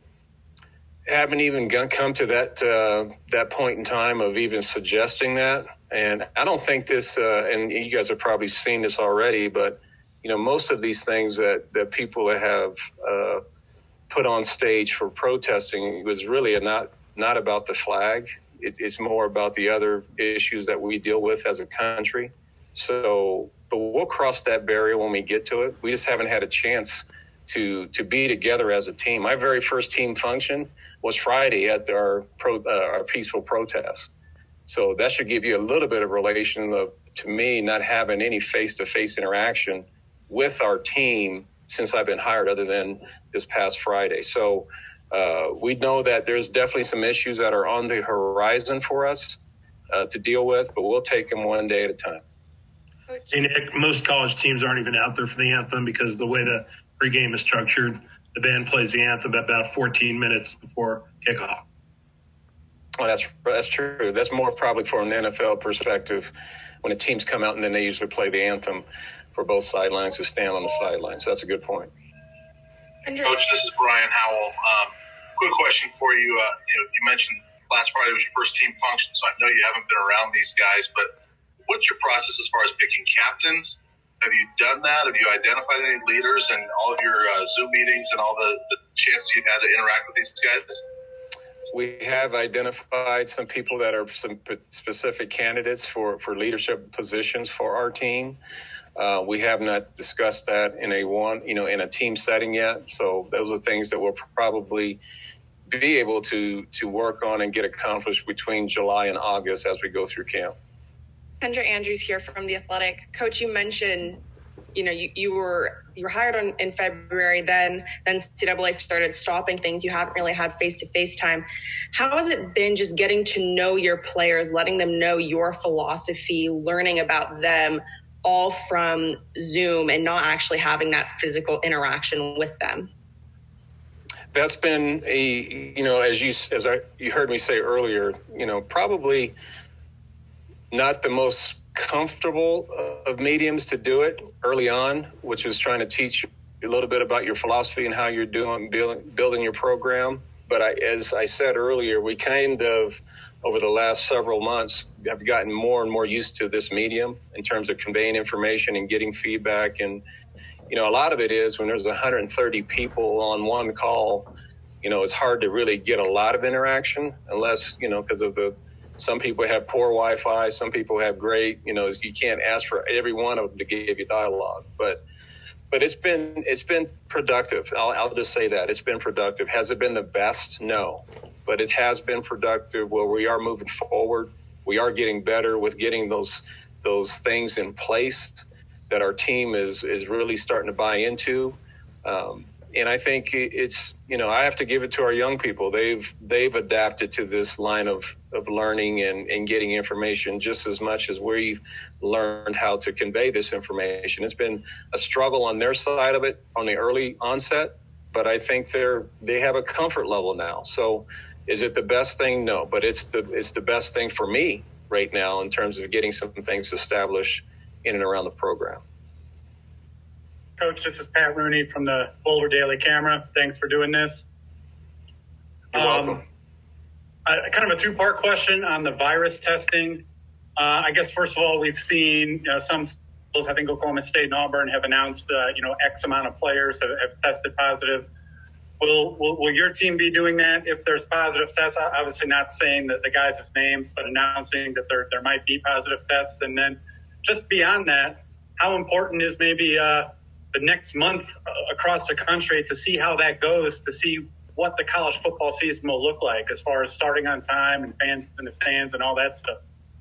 Haven't even come to that point in time of even suggesting that. And I don't think this, and you guys have probably seen this already, but, most of these things that people have put on stage for protesting was really not about the flag. It's more about the other issues that we deal with as a country. So, but we'll cross that barrier when we get to it. We just haven't had a chance to be together as a team. My very first team function was Friday at our peaceful protest. So that should give you a little bit of relation of, to me, not having any face-to-face interaction with our team since I've been hired, other than this past Friday. So we know that there's definitely some issues that are on the horizon for us to deal with, but we'll take them one day at a time. Hey, Nick, most college teams aren't even out there for the anthem because of the way the pregame is structured. The band plays the anthem about 14 minutes before kickoff. Oh, that's true. That's more probably from an NFL perspective when the teams come out and then they usually play the anthem for both sidelines to stand on the sidelines. That's a good point. Coach, this is Brian Howell. Quick question for you. You mentioned last Friday was your first team function, so I know you haven't been around these guys, but what's your process as far as picking captains? Have you done that? Have you identified any leaders in all of your Zoom meetings and all the chances you've had to interact with these guys? We have identified some people that are some specific candidates for leadership positions for our team. We have not discussed that in a team setting yet. So those are things that we'll probably be able to work on and get accomplished between July and August as we go through camp. Kendra Andrews here from The Athletic. Coach, you mentioned, you were hired in February, then NCAA started stopping things. You haven't really had face-to-face time. How has it been just getting to know your players, letting them know your philosophy, learning about them all from Zoom and not actually having that physical interaction with them? That's been as you heard me say earlier, probably not the most comfortable of mediums to do it early on, which is trying to teach you a little bit about your philosophy and how you're doing building your program. But as I said earlier, we kind of over the last several months have gotten more and more used to this medium in terms of conveying information and getting feedback. And a lot of it is when there's 130 people on one call, it's hard to really get a lot of interaction unless, because of some people have poor Wi-Fi, some people have great, you can't ask for every one of them to give you dialogue. But it's been productive. I'll just say that it's been productive. Has it been the best? No, but it has been productive. Where we are moving forward, we are getting better with getting those things in place that our team is really starting to buy into. And I think it's, I have to give it to our young people. They've adapted to this line of learning and getting information just as much as we've learned how to convey this information. It's been a struggle on their side of it on the early onset, but I think they have a comfort level now. So is it the best thing? No, but it's the best thing for me right now in terms of getting some things established in and around the program. Coach, this is Pat Rooney from the Boulder Daily Camera. Thanks for doing this. You're welcome. Kind of a two-part question on the virus testing. I guess, first of all, we've seen some schools, I think Oklahoma State and Auburn, have announced, X amount of players have tested positive. Will your team be doing that if there's positive tests? Obviously not saying that the guys' names, but announcing that there might be positive tests. And then just beyond that, how important is maybe the next month across the country to see how that goes, to see what the college football season will look like as far as starting on time and fans in the stands and all that stuff?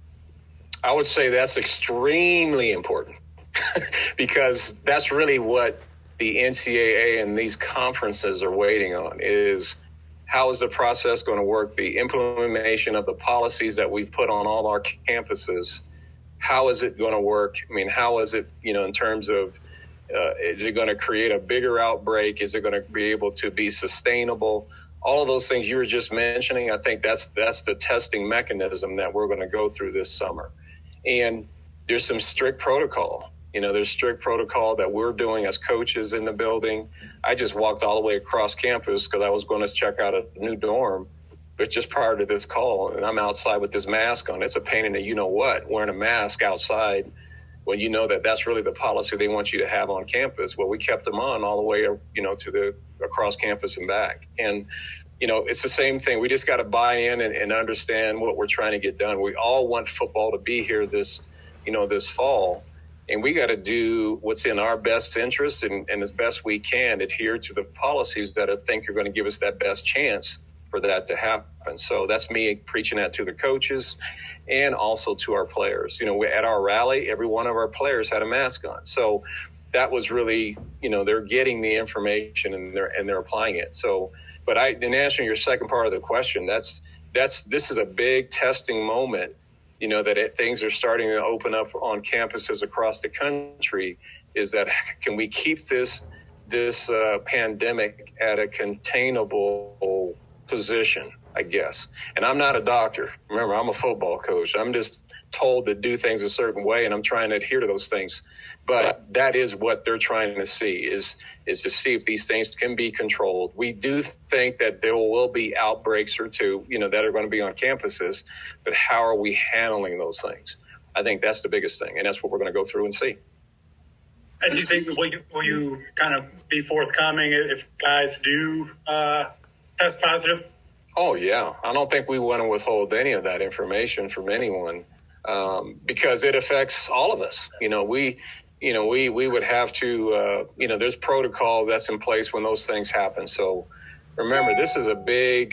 I would say that's extremely important because that's really what the NCAA and these conferences are waiting on is how is the process going to work, the implementation of the policies that we've put on all our campuses. How is it going to work? I mean, how is it, in terms of is it going to create a bigger outbreak? Is it going to be able to be sustainable? All of those things you were just mentioning, I think that's the testing mechanism that we're going to go through this summer. And there's some strict protocol. There's strict protocol that we're doing as coaches in the building. I just walked all the way across campus because I was going to check out a new dorm, but just prior to this call, and I'm outside with this mask on. It's a pain in the wearing a mask outside when you know that that's really the policy they want you to have on campus. Well, we kept them on all the way, to the across campus and back. And, it's the same thing. We just got to buy in and understand what we're trying to get done. We all want football to be here this fall. And we got to do what's in our best interest and as best we can adhere to the policies that I think are going to give us that best chance for that to happen. So that's me preaching that to the coaches and also to our players. At our rally, every one of our players had a mask on. So that was really, they're getting the information and they're applying it. So, but in answering your second part of the question, this is a big testing moment, that things are starting to open up on campuses across the country, is that can we keep this pandemic at a containable position? I guess. And I'm not a doctor. Remember, I'm a football coach. I'm just told to do things a certain way, and I'm trying to adhere to those things. But that is what they're trying to see, is to see if these things can be controlled. We do think that there will be outbreaks or two, that are going to be on campuses, but how are we handling those things? I think that's the biggest thing, and that's what we're going to go through and see. And do you think, will you kind of be forthcoming if guys do test positive? Oh, yeah. I don't think we want to withhold any of that information from anyone because it affects all of us. We would have to, there's protocol that's in place when those things happen. So remember, this is a big,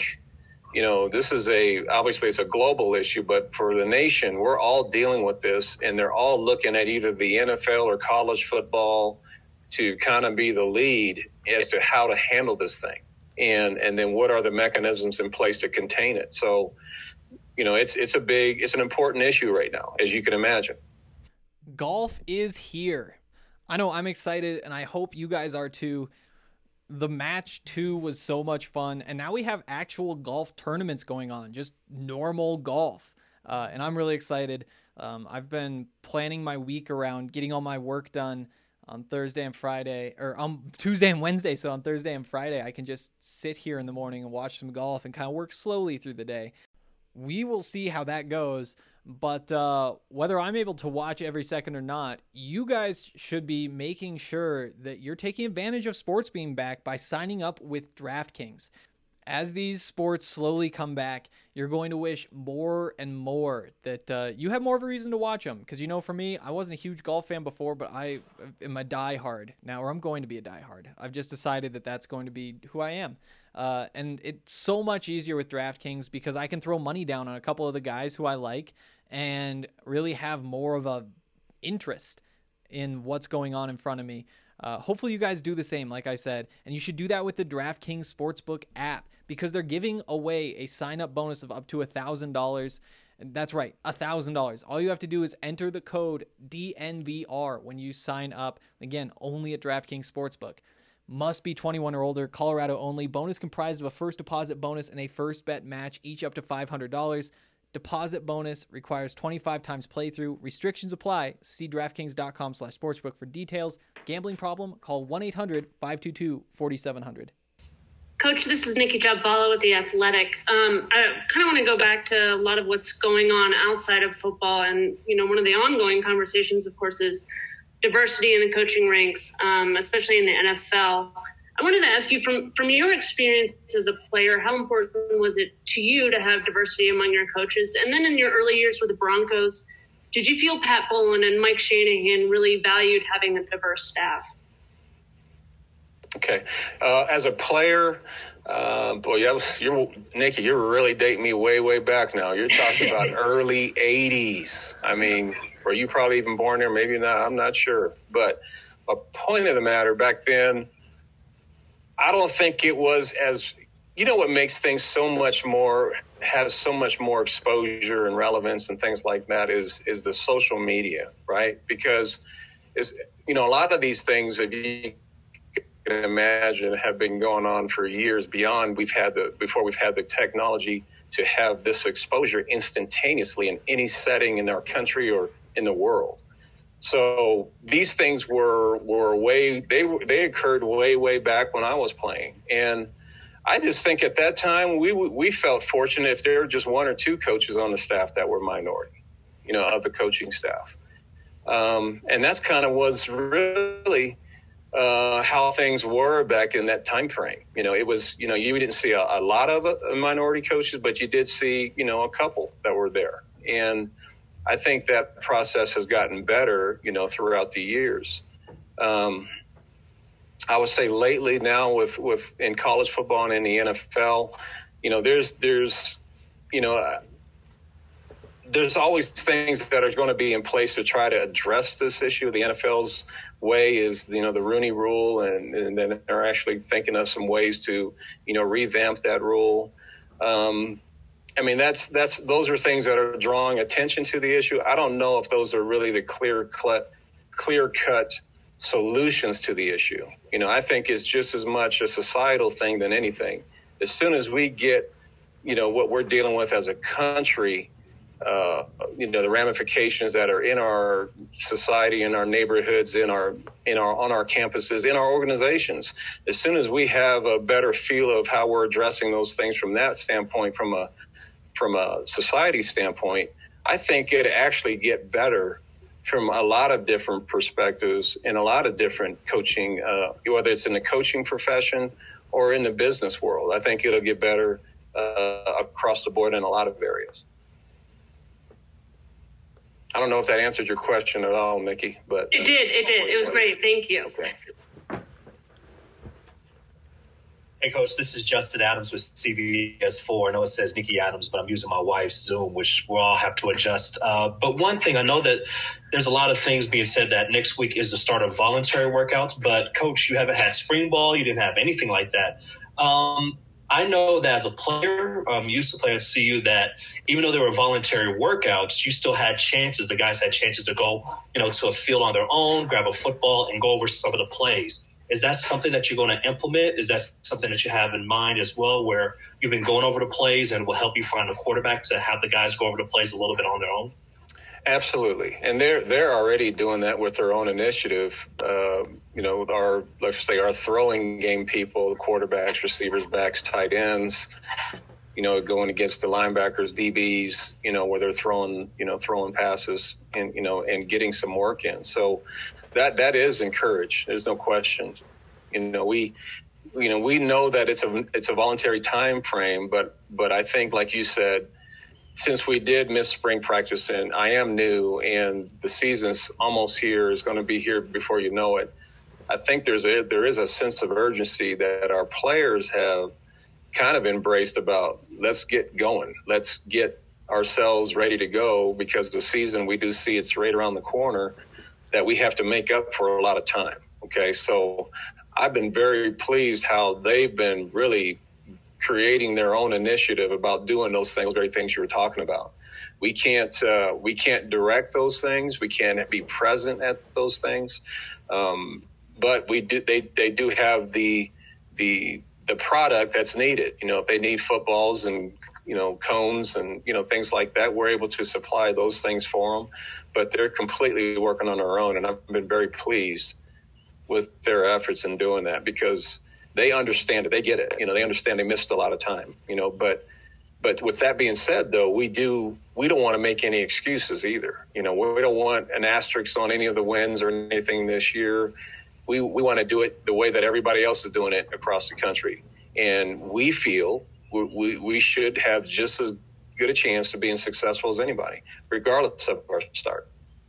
obviously it's a global issue, but for the nation, we're all dealing with this, and they're all looking at either the NFL or college football to kind of be the lead as to how to handle this thing. And then what are the mechanisms in place to contain it? So, it's an important issue right now, as you can imagine. Golf is here. I know I'm excited, and I hope you guys are too. The match 2 was so much fun, and now we have actual golf tournaments going on, just normal golf. And I'm really excited. I've been planning my week around getting all my work done on Thursday and Friday, or on Tuesday and Wednesday. So on Thursday and Friday, I can just sit here in the morning and watch some golf and kind of work slowly through the day. We will see how that goes. But whether I'm able to watch every second or not, you guys should be making sure that you're taking advantage of sports being back by signing up with DraftKings. As these sports slowly come back, you're going to wish more and more that you have more of a reason to watch them. Because, for me, I wasn't a huge golf fan before, but I am a diehard now, or I'm going to be a diehard. I've just decided that that's going to be who I am. And it's so much easier with DraftKings because I can throw money down on a couple of the guys who I like and really have more of a interest in what's going on in front of me. Hopefully you guys do the same, like I said, and you should do that with the DraftKings Sportsbook app because they're giving away a sign-up bonus of up to $1,000. And that's right, $1,000. All you have to do is enter the code DNVR when you sign up. Again, only at DraftKings Sportsbook. Must be 21 or older, Colorado only. Bonus comprised of a first deposit bonus and a first bet match, each up to $500. Deposit bonus requires 25 times playthrough. Restrictions apply. See DraftKings.com/sportsbook for details. Gambling problem? Call 1-800-522-4700. Coach, this is Nikki Jabvala with The Athletic. I kind of want to go back to a lot of what's going on outside of football. And, one of the ongoing conversations, of course, is diversity in the coaching ranks, especially in the NFL. I wanted to ask you, from your experience as a player, how important was it to you to have diversity among your coaches? And then in your early years with the Broncos, did you feel Pat Bowlen and Mike Shanahan really valued having a diverse staff? Okay. As a player, Nikki, you're really dating me way, way back now. You're talking about early 80s. I mean, were you probably even born there? Maybe not. I'm not sure. But a point of the matter, back then, I don't think it was as – what makes things has so much more exposure and relevance and things like that is the social media, right? Because, a lot of these things, if you can imagine, have been going on for years before we've had the technology to have this exposure instantaneously in any setting in our country or in the world. So these things they occurred way, way back when I was playing. And I just think at that time we felt fortunate if there were just one or two coaches on the staff that were minority, of the coaching staff. And that's kind of was really how things were back in that time frame. It was, you didn't see a lot of minority coaches, but you did see, a couple that were there. And I think that process has gotten better, throughout the years. I would say lately now with in college football and in the NFL, there's always things that are going to be in place to try to address this issue. The NFL's way is, the Rooney Rule, and then they're actually thinking of some ways to, revamp that rule. Those are things that are drawing attention to the issue. I don't know if those are really the clear-cut solutions to the issue. I think it's just as much a societal thing than anything. As soon as we get what we're dealing with as a country, the ramifications that are in our society, in our neighborhoods, on our campuses, in our organizations. As soon as we have a better feel of how we're addressing those things from that standpoint, from a society standpoint, I think it actually get better from a lot of different perspectives and a lot of different coaching, whether it's in the coaching profession or in the business world. I think it'll get better across the board in a lot of areas. I don't know if that answered your question at all, Mickey, but it did. It was great. Thank you. Okay. Hey, Coach, this is Justin Adams with CBS4. I know it says Nikki Adams, but I'm using my wife's Zoom, which we'll all have to adjust. But one thing, I know that there's a lot of things being said that next week is the start of voluntary workouts. But, Coach, you haven't had spring ball. You didn't have anything like that. I know that as a player, used to play at CU, that even though there were voluntary workouts, you still had chances. The guys had chances to go, to a field on their own, grab a football, and go over some of the plays. Is that something that you're going to implement? Is that something that you have in mind as well, where you've been going over the plays and will help you find a quarterback to have the guys go over the plays a little bit on their own? Absolutely. And they're already doing that with their own initiative. Our throwing game people, quarterbacks, receivers, backs, tight ends, going against the linebackers, DBs, where they're throwing passes and getting some work in. So that is encouraged. There's no question. We know that it's a voluntary time frame, but I think, like you said, since we did miss spring practice and I am new and the season's almost here, is going to be here before you know it, I think there is a sense of urgency that our players have kind of embraced about, let's get going. Let's get ourselves ready to go, because the season, we do see it's right around the corner, that we have to make up for a lot of time. Okay. So I've been very pleased how they've been really creating their own initiative about doing those very things you were talking about. We can't direct those things. We can't be present at those things. But they do have the product that's needed. If they need footballs and, cones and, things like that, we're able to supply those things for them, but they're completely working on their own. And I've been very pleased with their efforts in doing that, because they understand it. They get it. They understand they missed a lot of time, but with that being said, though, we don't want to make any excuses either. We don't want an asterisk on any of the wins or anything this year. We want to do it the way that everybody else is doing it across the country. And we feel we should have just as good a chance of being successful as anybody, regardless of our start.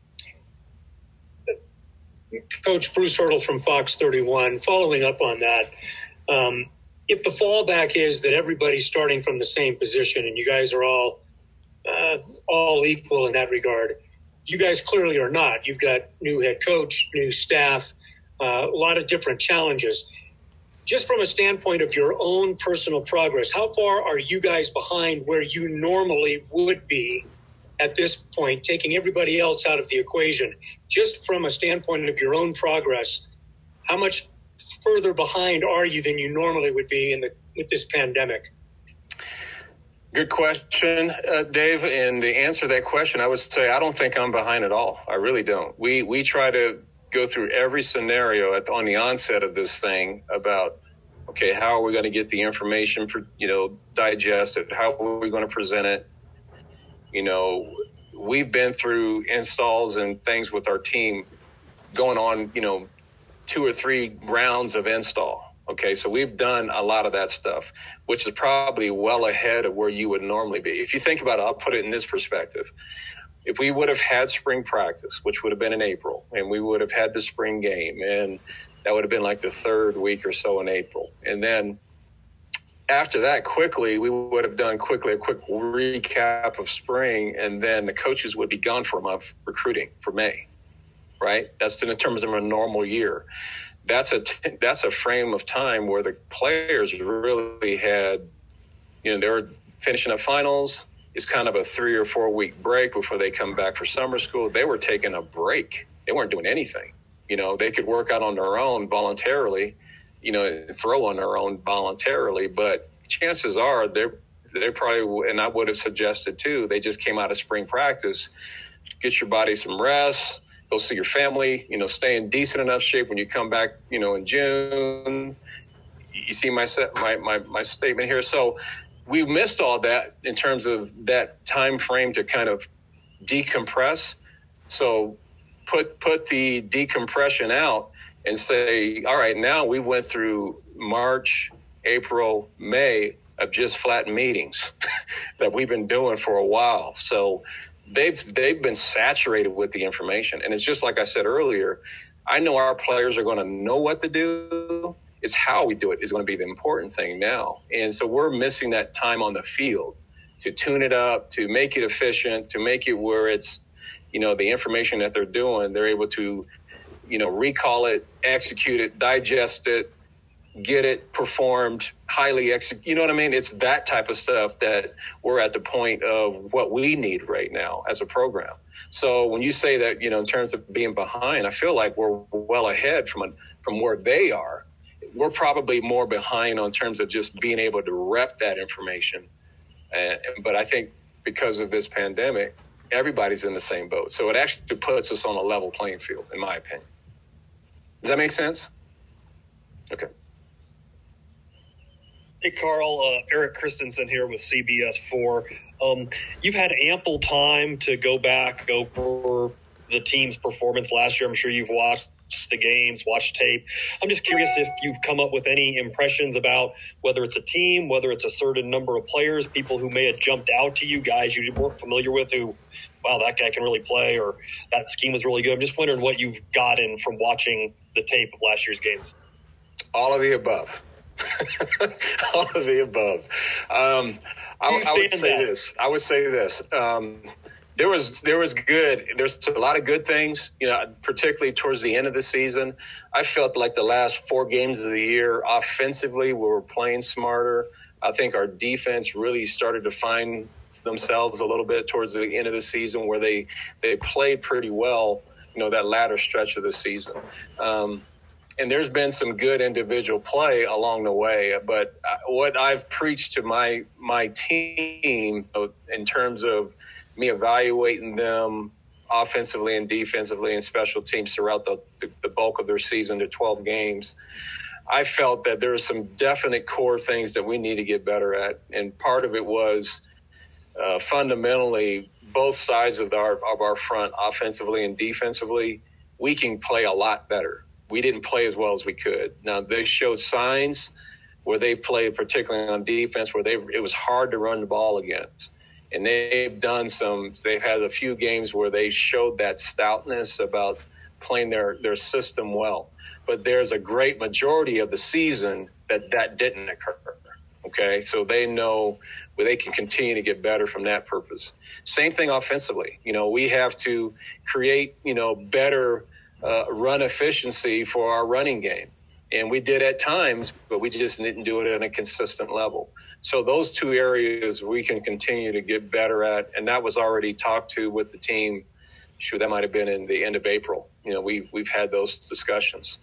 Coach Bruce Hurdle from Fox 31, following up on that, if the fallback is that everybody's starting from the same position and you guys are all equal in that regard, you guys clearly are not. You've got new head coach, new staff, a lot of different challenges. Just from a standpoint of your own personal progress, how far are you guys behind where you normally would be at this point, taking everybody else out of the equation? Just from a standpoint of your own progress, how much further behind are you than you normally would be with this pandemic? Good question, Dave. And to answer that question, I would say I don't think I'm behind at all. I really don't. We try to go through every scenario on the onset of this thing about, okay, how are we going to get the information digested? How are we going to present it? We've been through installs and things with our team going on, 2 or 3 rounds of install. Okay, so we've done a lot of that stuff, which is probably well ahead of where you would normally be. If you think about it, I'll put it in this perspective. If we would have had spring practice, which would have been in April, and we would have had the spring game, and that would have been like the 3rd week or so in April. And then after that, quickly, we would have done a quick recap of spring, and then the coaches would be gone for a month recruiting for May, right? That's in terms of a normal year. That's a frame of time where the players really had, they were finishing up finals. It's kind of a 3 or 4 week break before they come back for summer school. They were taking a break. They weren't doing anything. They could work out on their own voluntarily, throw on their own voluntarily, but chances are they probably, and I would have suggested too, they just came out of spring practice, get your body some rest, go see your family, stay in decent enough shape when you come back, in June. You see my statement here. So we missed all that in terms of that time frame to kind of decompress. So put the decompression out and say, all right, now we went through March, April, May of just flat meetings that we've been doing for a while. So they've been saturated with the information. And it's just like I said earlier, I know our players are going to know what to do. It's how we do it is going to be the important thing now. And so we're missing that time on the field to tune it up, to make it efficient, to make it where it's, the information that they're doing, they're able to, recall it, execute it, digest it, get it performed, highly execute. You know what I mean? It's that type of stuff that we're at the point of what we need right now as a program. So when you say that, in terms of being behind, I feel like we're well ahead from where they are. We're probably more behind on terms of just being able to rep that information. But I think because of this pandemic, everybody's in the same boat. So it actually puts us on a level playing field, in my opinion. Does that make sense? Okay. Hey, Carl, Eric Christensen here with CBS 4. You've had ample time to go back over the team's performance last year. I'm sure you've watched the games, watched tape. I'm just curious if you've come up with any impressions about whether it's a team, whether it's a certain number of players, people who may have jumped out to you, guys you weren't familiar with who, wow, that guy can really play, or that scheme was really good. I'm just wondering what you've gotten from watching the tape of last year's games. All of the above. All of the above. I would say this. There's a lot of good things, particularly towards the end of the season. I felt like the last 4 games of the year, offensively, we were playing smarter. I think our defense really started to find themselves a little bit towards the end of the season, where they played pretty well, that latter stretch of the season. And there's been some good individual play along the way. But what I've preached to my team in terms of me evaluating them offensively and defensively and special teams throughout the bulk of their season to 12 games, I felt that there are some definite core things that we need to get better at. And part of it was fundamentally both sides of our front, offensively and defensively, we can play a lot better. We didn't play as well as we could. Now, they showed signs where they played, particularly on defense, where it was hard to run the ball against. And they've had a few games where they showed that stoutness about playing their system well. But there's a great majority of the season that didn't occur. Okay, so they know where they can continue to get better from that purpose. Same thing offensively. We have to create, better run efficiency for our running game. And we did at times, but we just didn't do it at a consistent level. So those 2 areas we can continue to get better at. And that was already talked to with the team. Sure, that might have been in the end of April. We've had those discussions.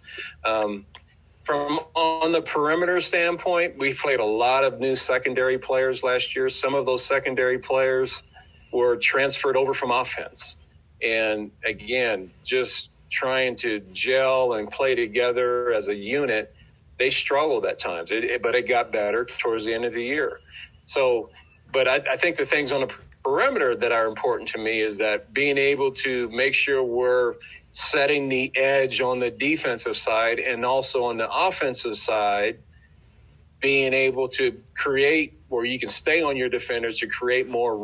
From on the perimeter standpoint, we played a lot of new secondary players last year. Some of those secondary players were transferred over from offense. And again, just trying to gel and play together as a unit, they struggled at times, but it got better towards the end of the year. So, but I think the things on the perimeter that are important to me is that being able to make sure we're setting the edge on the defensive side, and also on the offensive side, being able to create where you can stay on your defenders to create more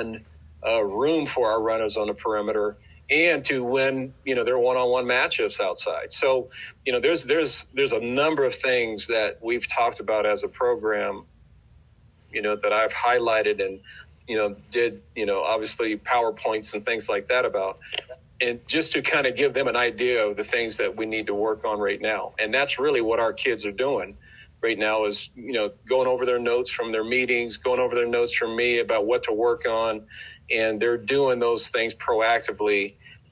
room for our runners on the perimeter, and to win, their one-on-one matchups outside. So, there's a number of things that we've talked about as a program, that I've highlighted and, did, obviously PowerPoints and things like that about, and just to kind of give them an idea of the things that we need to work on right now. And that's really what our kids are doing right now is, going over their notes from their meetings, going over their notes from me about what to work on. And they're doing those things proactively,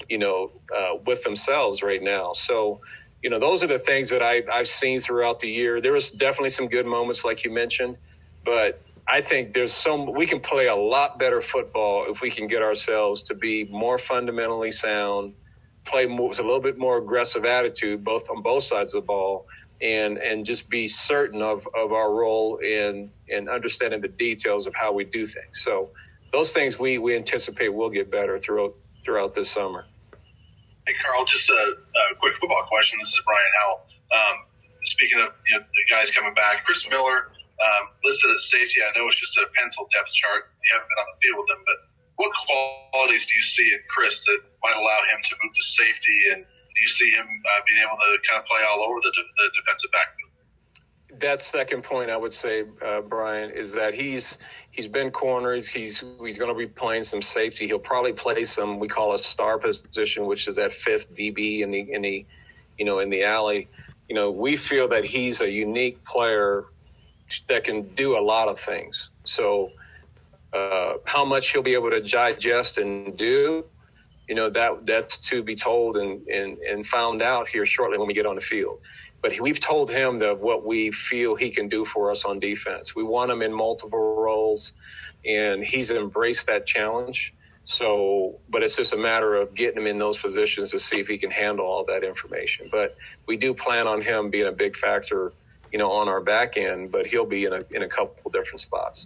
with themselves right now. So, those are the things that I've seen throughout the year. There was definitely some good moments, like you mentioned, but I think we can play a lot better football if we can get ourselves to be more fundamentally sound, play with a little bit more aggressive attitude, on both sides of the ball, and just be certain of our role in understanding the details of how we do things. So those things we anticipate will get better throughout this summer. Hey, Carl, just a quick football question. This is Brian Howell. Speaking of the guys coming back, Chris Miller listed as safety. I know it's just a pencil depth chart. You haven't been on the field with him, but what qualities do you see in Chris that might allow him to move to safety? And do you see him being able to kind of play all over the defensive backfield? That second point, I would say, Brian, is that he's been corners. He's going to be playing some safety. He'll probably play some, we call a star position, which is that fifth DB in the alley. We feel that he's a unique player that can do a lot of things. So how much he'll be able to digest and do, that's to be told and found out here shortly when we get on the field. But we've told him that what we feel he can do for us on defense. We want him in multiple roles, and he's embraced that challenge. So, but it's just a matter of getting him in those positions to see if he can handle all that information. But we do plan on him being a big factor, on our back end, but he'll be in a couple different spots.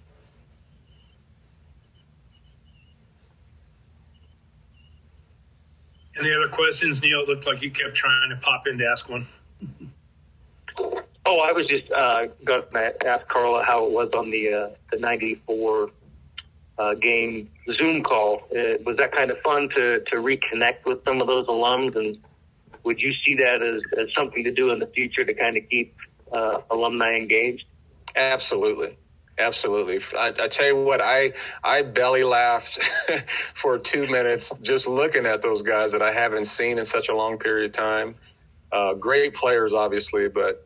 Any other questions, Neil? It looked like you kept trying to pop in to ask one. Oh, I was just going to ask Carla how it was on the 94 game Zoom call. Was that kind of fun to reconnect with some of those alums? And would you see that as something to do in the future to kind of keep alumni engaged? Absolutely. Absolutely. I tell you what, I belly laughed for 2 minutes just looking at those guys that I haven't seen in such a long period of time. Great players, obviously, but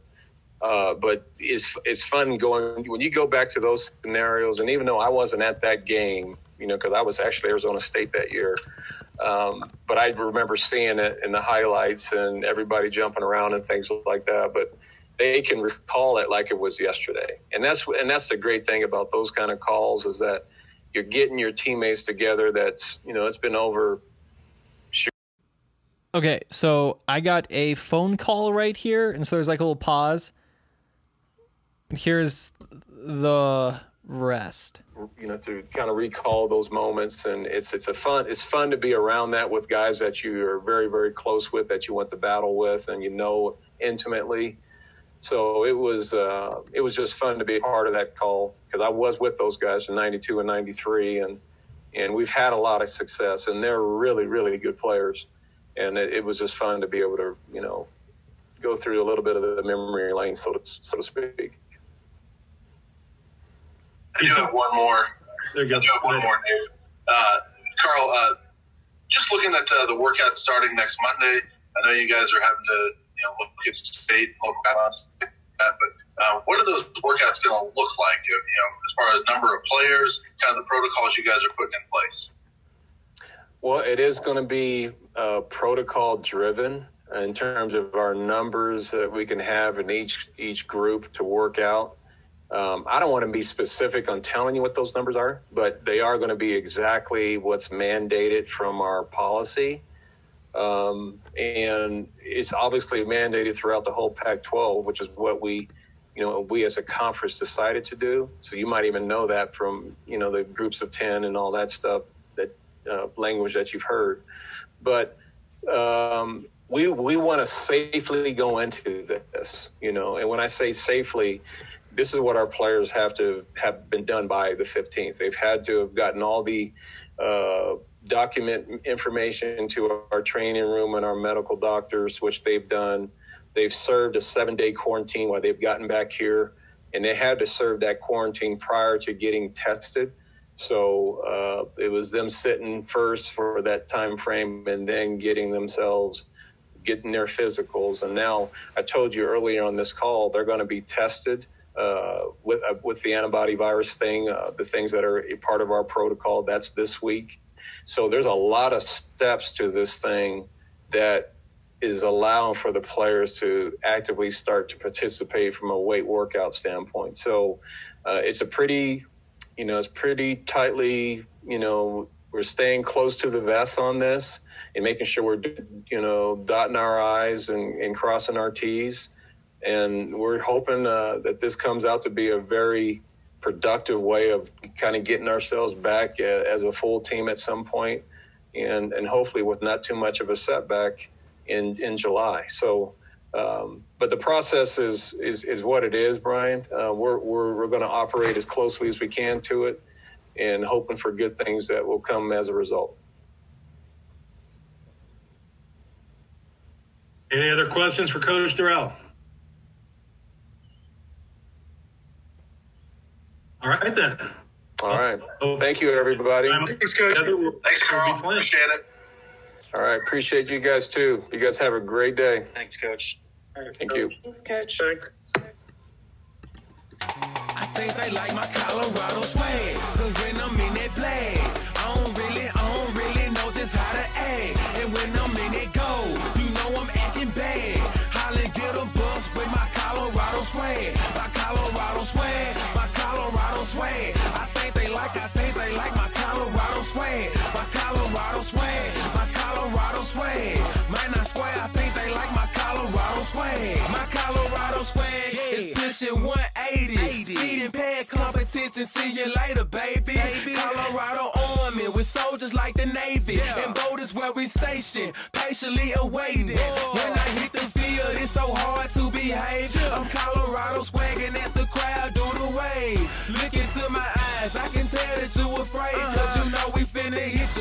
it's fun going when you go back to those scenarios. And even though I wasn't at that game, because I was actually Arizona State that year, but I remember seeing it in the highlights and everybody jumping around and things like that. But they can recall it like it was yesterday. And that's the great thing about those kind of calls is that you're getting your teammates together. That's, it's been over. Okay, so I got a phone call right here, and so there's like a little pause. Here's the rest. To kind of recall those moments, and it's fun to be around that with guys that you are very, very close with, that you went to battle with, and intimately. So it was just fun to be a part of that call because I was with those guys in 92 and 93, and we've had a lot of success, and they're really, really good players. And it was just fun to be able to, go through a little bit of the memory lane, so to speak. I do have one more. There you go. Dave. Carl, just looking at the workout starting next Monday, I know you guys are having to, look at state, local balance, but what are those workouts going to look like, as far as number of players, kind of the protocols you guys are putting in place? Well, it is going to be protocol driven in terms of our numbers that we can have in each group to work out. I don't want to be specific on telling you what those numbers are, but they are going to be exactly what's mandated from our policy. And it's obviously mandated throughout the whole Pac-12, which is what we as a conference decided to do. So you might even know that from, the groups of 10 and all that stuff, that language that you've heard. But we want to safely go into this, and when I say safely, this is what our players have been done by the 15th. They've had to have gotten all the document information into our training room and our medical doctors, which they've done. They've served a 7-day quarantine while they've gotten back here, and they had to serve that quarantine prior to getting tested. So it was them sitting first for that time frame and then getting their physicals. And now I told you earlier on this call, they're going to be tested with the antibody virus thing, the things that are a part of our protocol. That's this week. So there's a lot of steps to this thing that is allowing for the players to actively start to participate from a weight workout standpoint. So it's pretty tightly, we're staying close to the vest on this and making sure we're, dotting our I's and crossing our T's. And we're hoping that this comes out to be a very productive way of kind of getting ourselves back as a full team at some point, and hopefully with not too much of a setback in July. So, but the process is what it is, Brian. We're going to operate as closely as we can to it, and hoping for good things that will come as a result. Any other questions for Coach Dorrell? All right, then. All right. Thank you, everybody. Thanks, Coach. Thanks, Carl. Appreciate it. All right. Appreciate you guys, too. You guys have a great day. Thanks, Coach. Thank you. Thanks, Coach. Thanks. I think they like my Colorado swag, cause when I'm in that flag, I don't really know just how to act. And when I'm in that goal, you know I'm acting bad. Holla, get a bus with my Colorado swag. My Colorado swag, my Colorado swag. I think they like my Colorado swag. My Colorado swag, my Colorado swag. Man, I swear, I think they like my Colorado swag. My Colorado swag is pushing 180. Speeding past competition, see you later, baby. Colorado Army with soldiers like the Navy. And boat is where we station, patiently awaiting. When I hit the field, it's so hard to behave. I'm Colorado swagging as the crowd do the wave. Look into my eyes, I can tell that you afraid. Cause you know we finna hit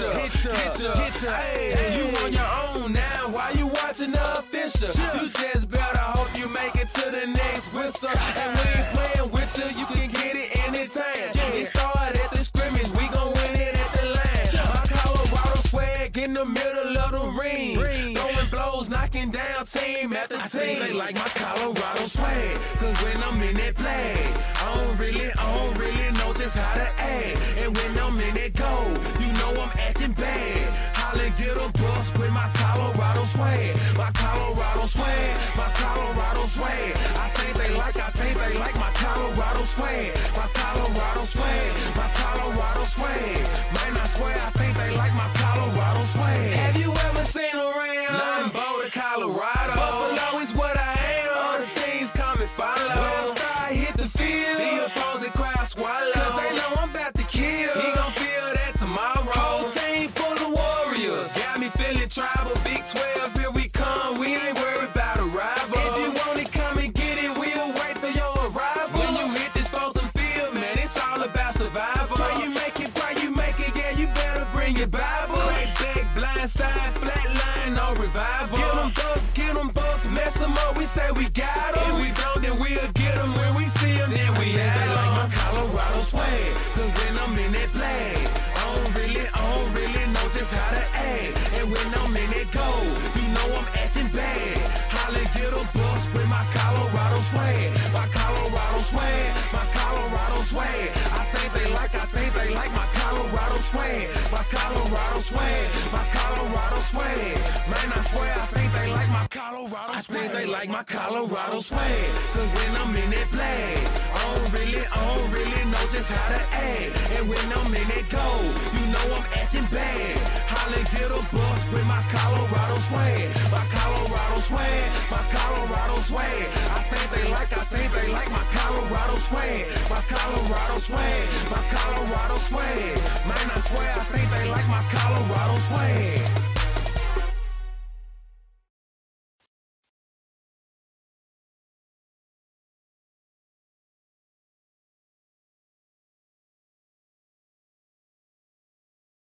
ya. Hey, you on your own now, why you watching the official? You just better hope you make it to the next whistle. And we ain't playing with you can get it anytime. It started at the scrimmage, we gon' win it at the line. My Colorado swag in the middle of the ring. Throwing blows, knocking down team after team. I think they like my Colorado swag, cause when I'm in that flag, I don't really know just how to act. And when I'm in that goal, you know I'm acting bad. Holla, get a bus with my Colorado swag. My Colorado swag, my Colorado swag. I think they like my Colorado swag. My Colorado swag, my Colorado swag. Man, I swear, I think they like my Colorado swag. Have you ever seen around? I'm Boulder, Colorado. Buffalo is what I am. All the teams come and follow. When I start hit the field, the opposing crowd swallow. Cause they know I'm about to kill. He gon' feel that tomorrow. Whole team full of warriors. Got me feeling tribal. Big 12, here we come. We ain't worried about a rival. If you want it, come and get it. We'll wait for your arrival. When you hit this frozen field, man, it's all about survival. Pray you make it, yeah, you better bring your Bible. Crack back, blind side, flat line, no revival. Get them bucks, mess them up, we say we got them. If we don't, then we'll get them. When we see them, then we have them. They like my Colorado swag, cause when I'm in that flag, I don't really know just how to act. And when I'm in that goal, you know I'm acting bad. Holla, get a bus with my Colorado swag. My Colorado swag, my Colorado swag. I think they like my Colorado swag. My Colorado swag, my Colorado swag. Man, I swear, I think they like my Colorado swag. I think they like my Colorado swag, cause when I'm in that flag, I don't really know just how to act. And when I'm in that goal, you know I'm acting bad. Holla, get a bus with my Colorado swag. My Colorado swag, my Colorado swag. I think they like my Colorado swag. My Colorado swag, my Colorado swag. Man, I swear, I think they like my Colorado swag.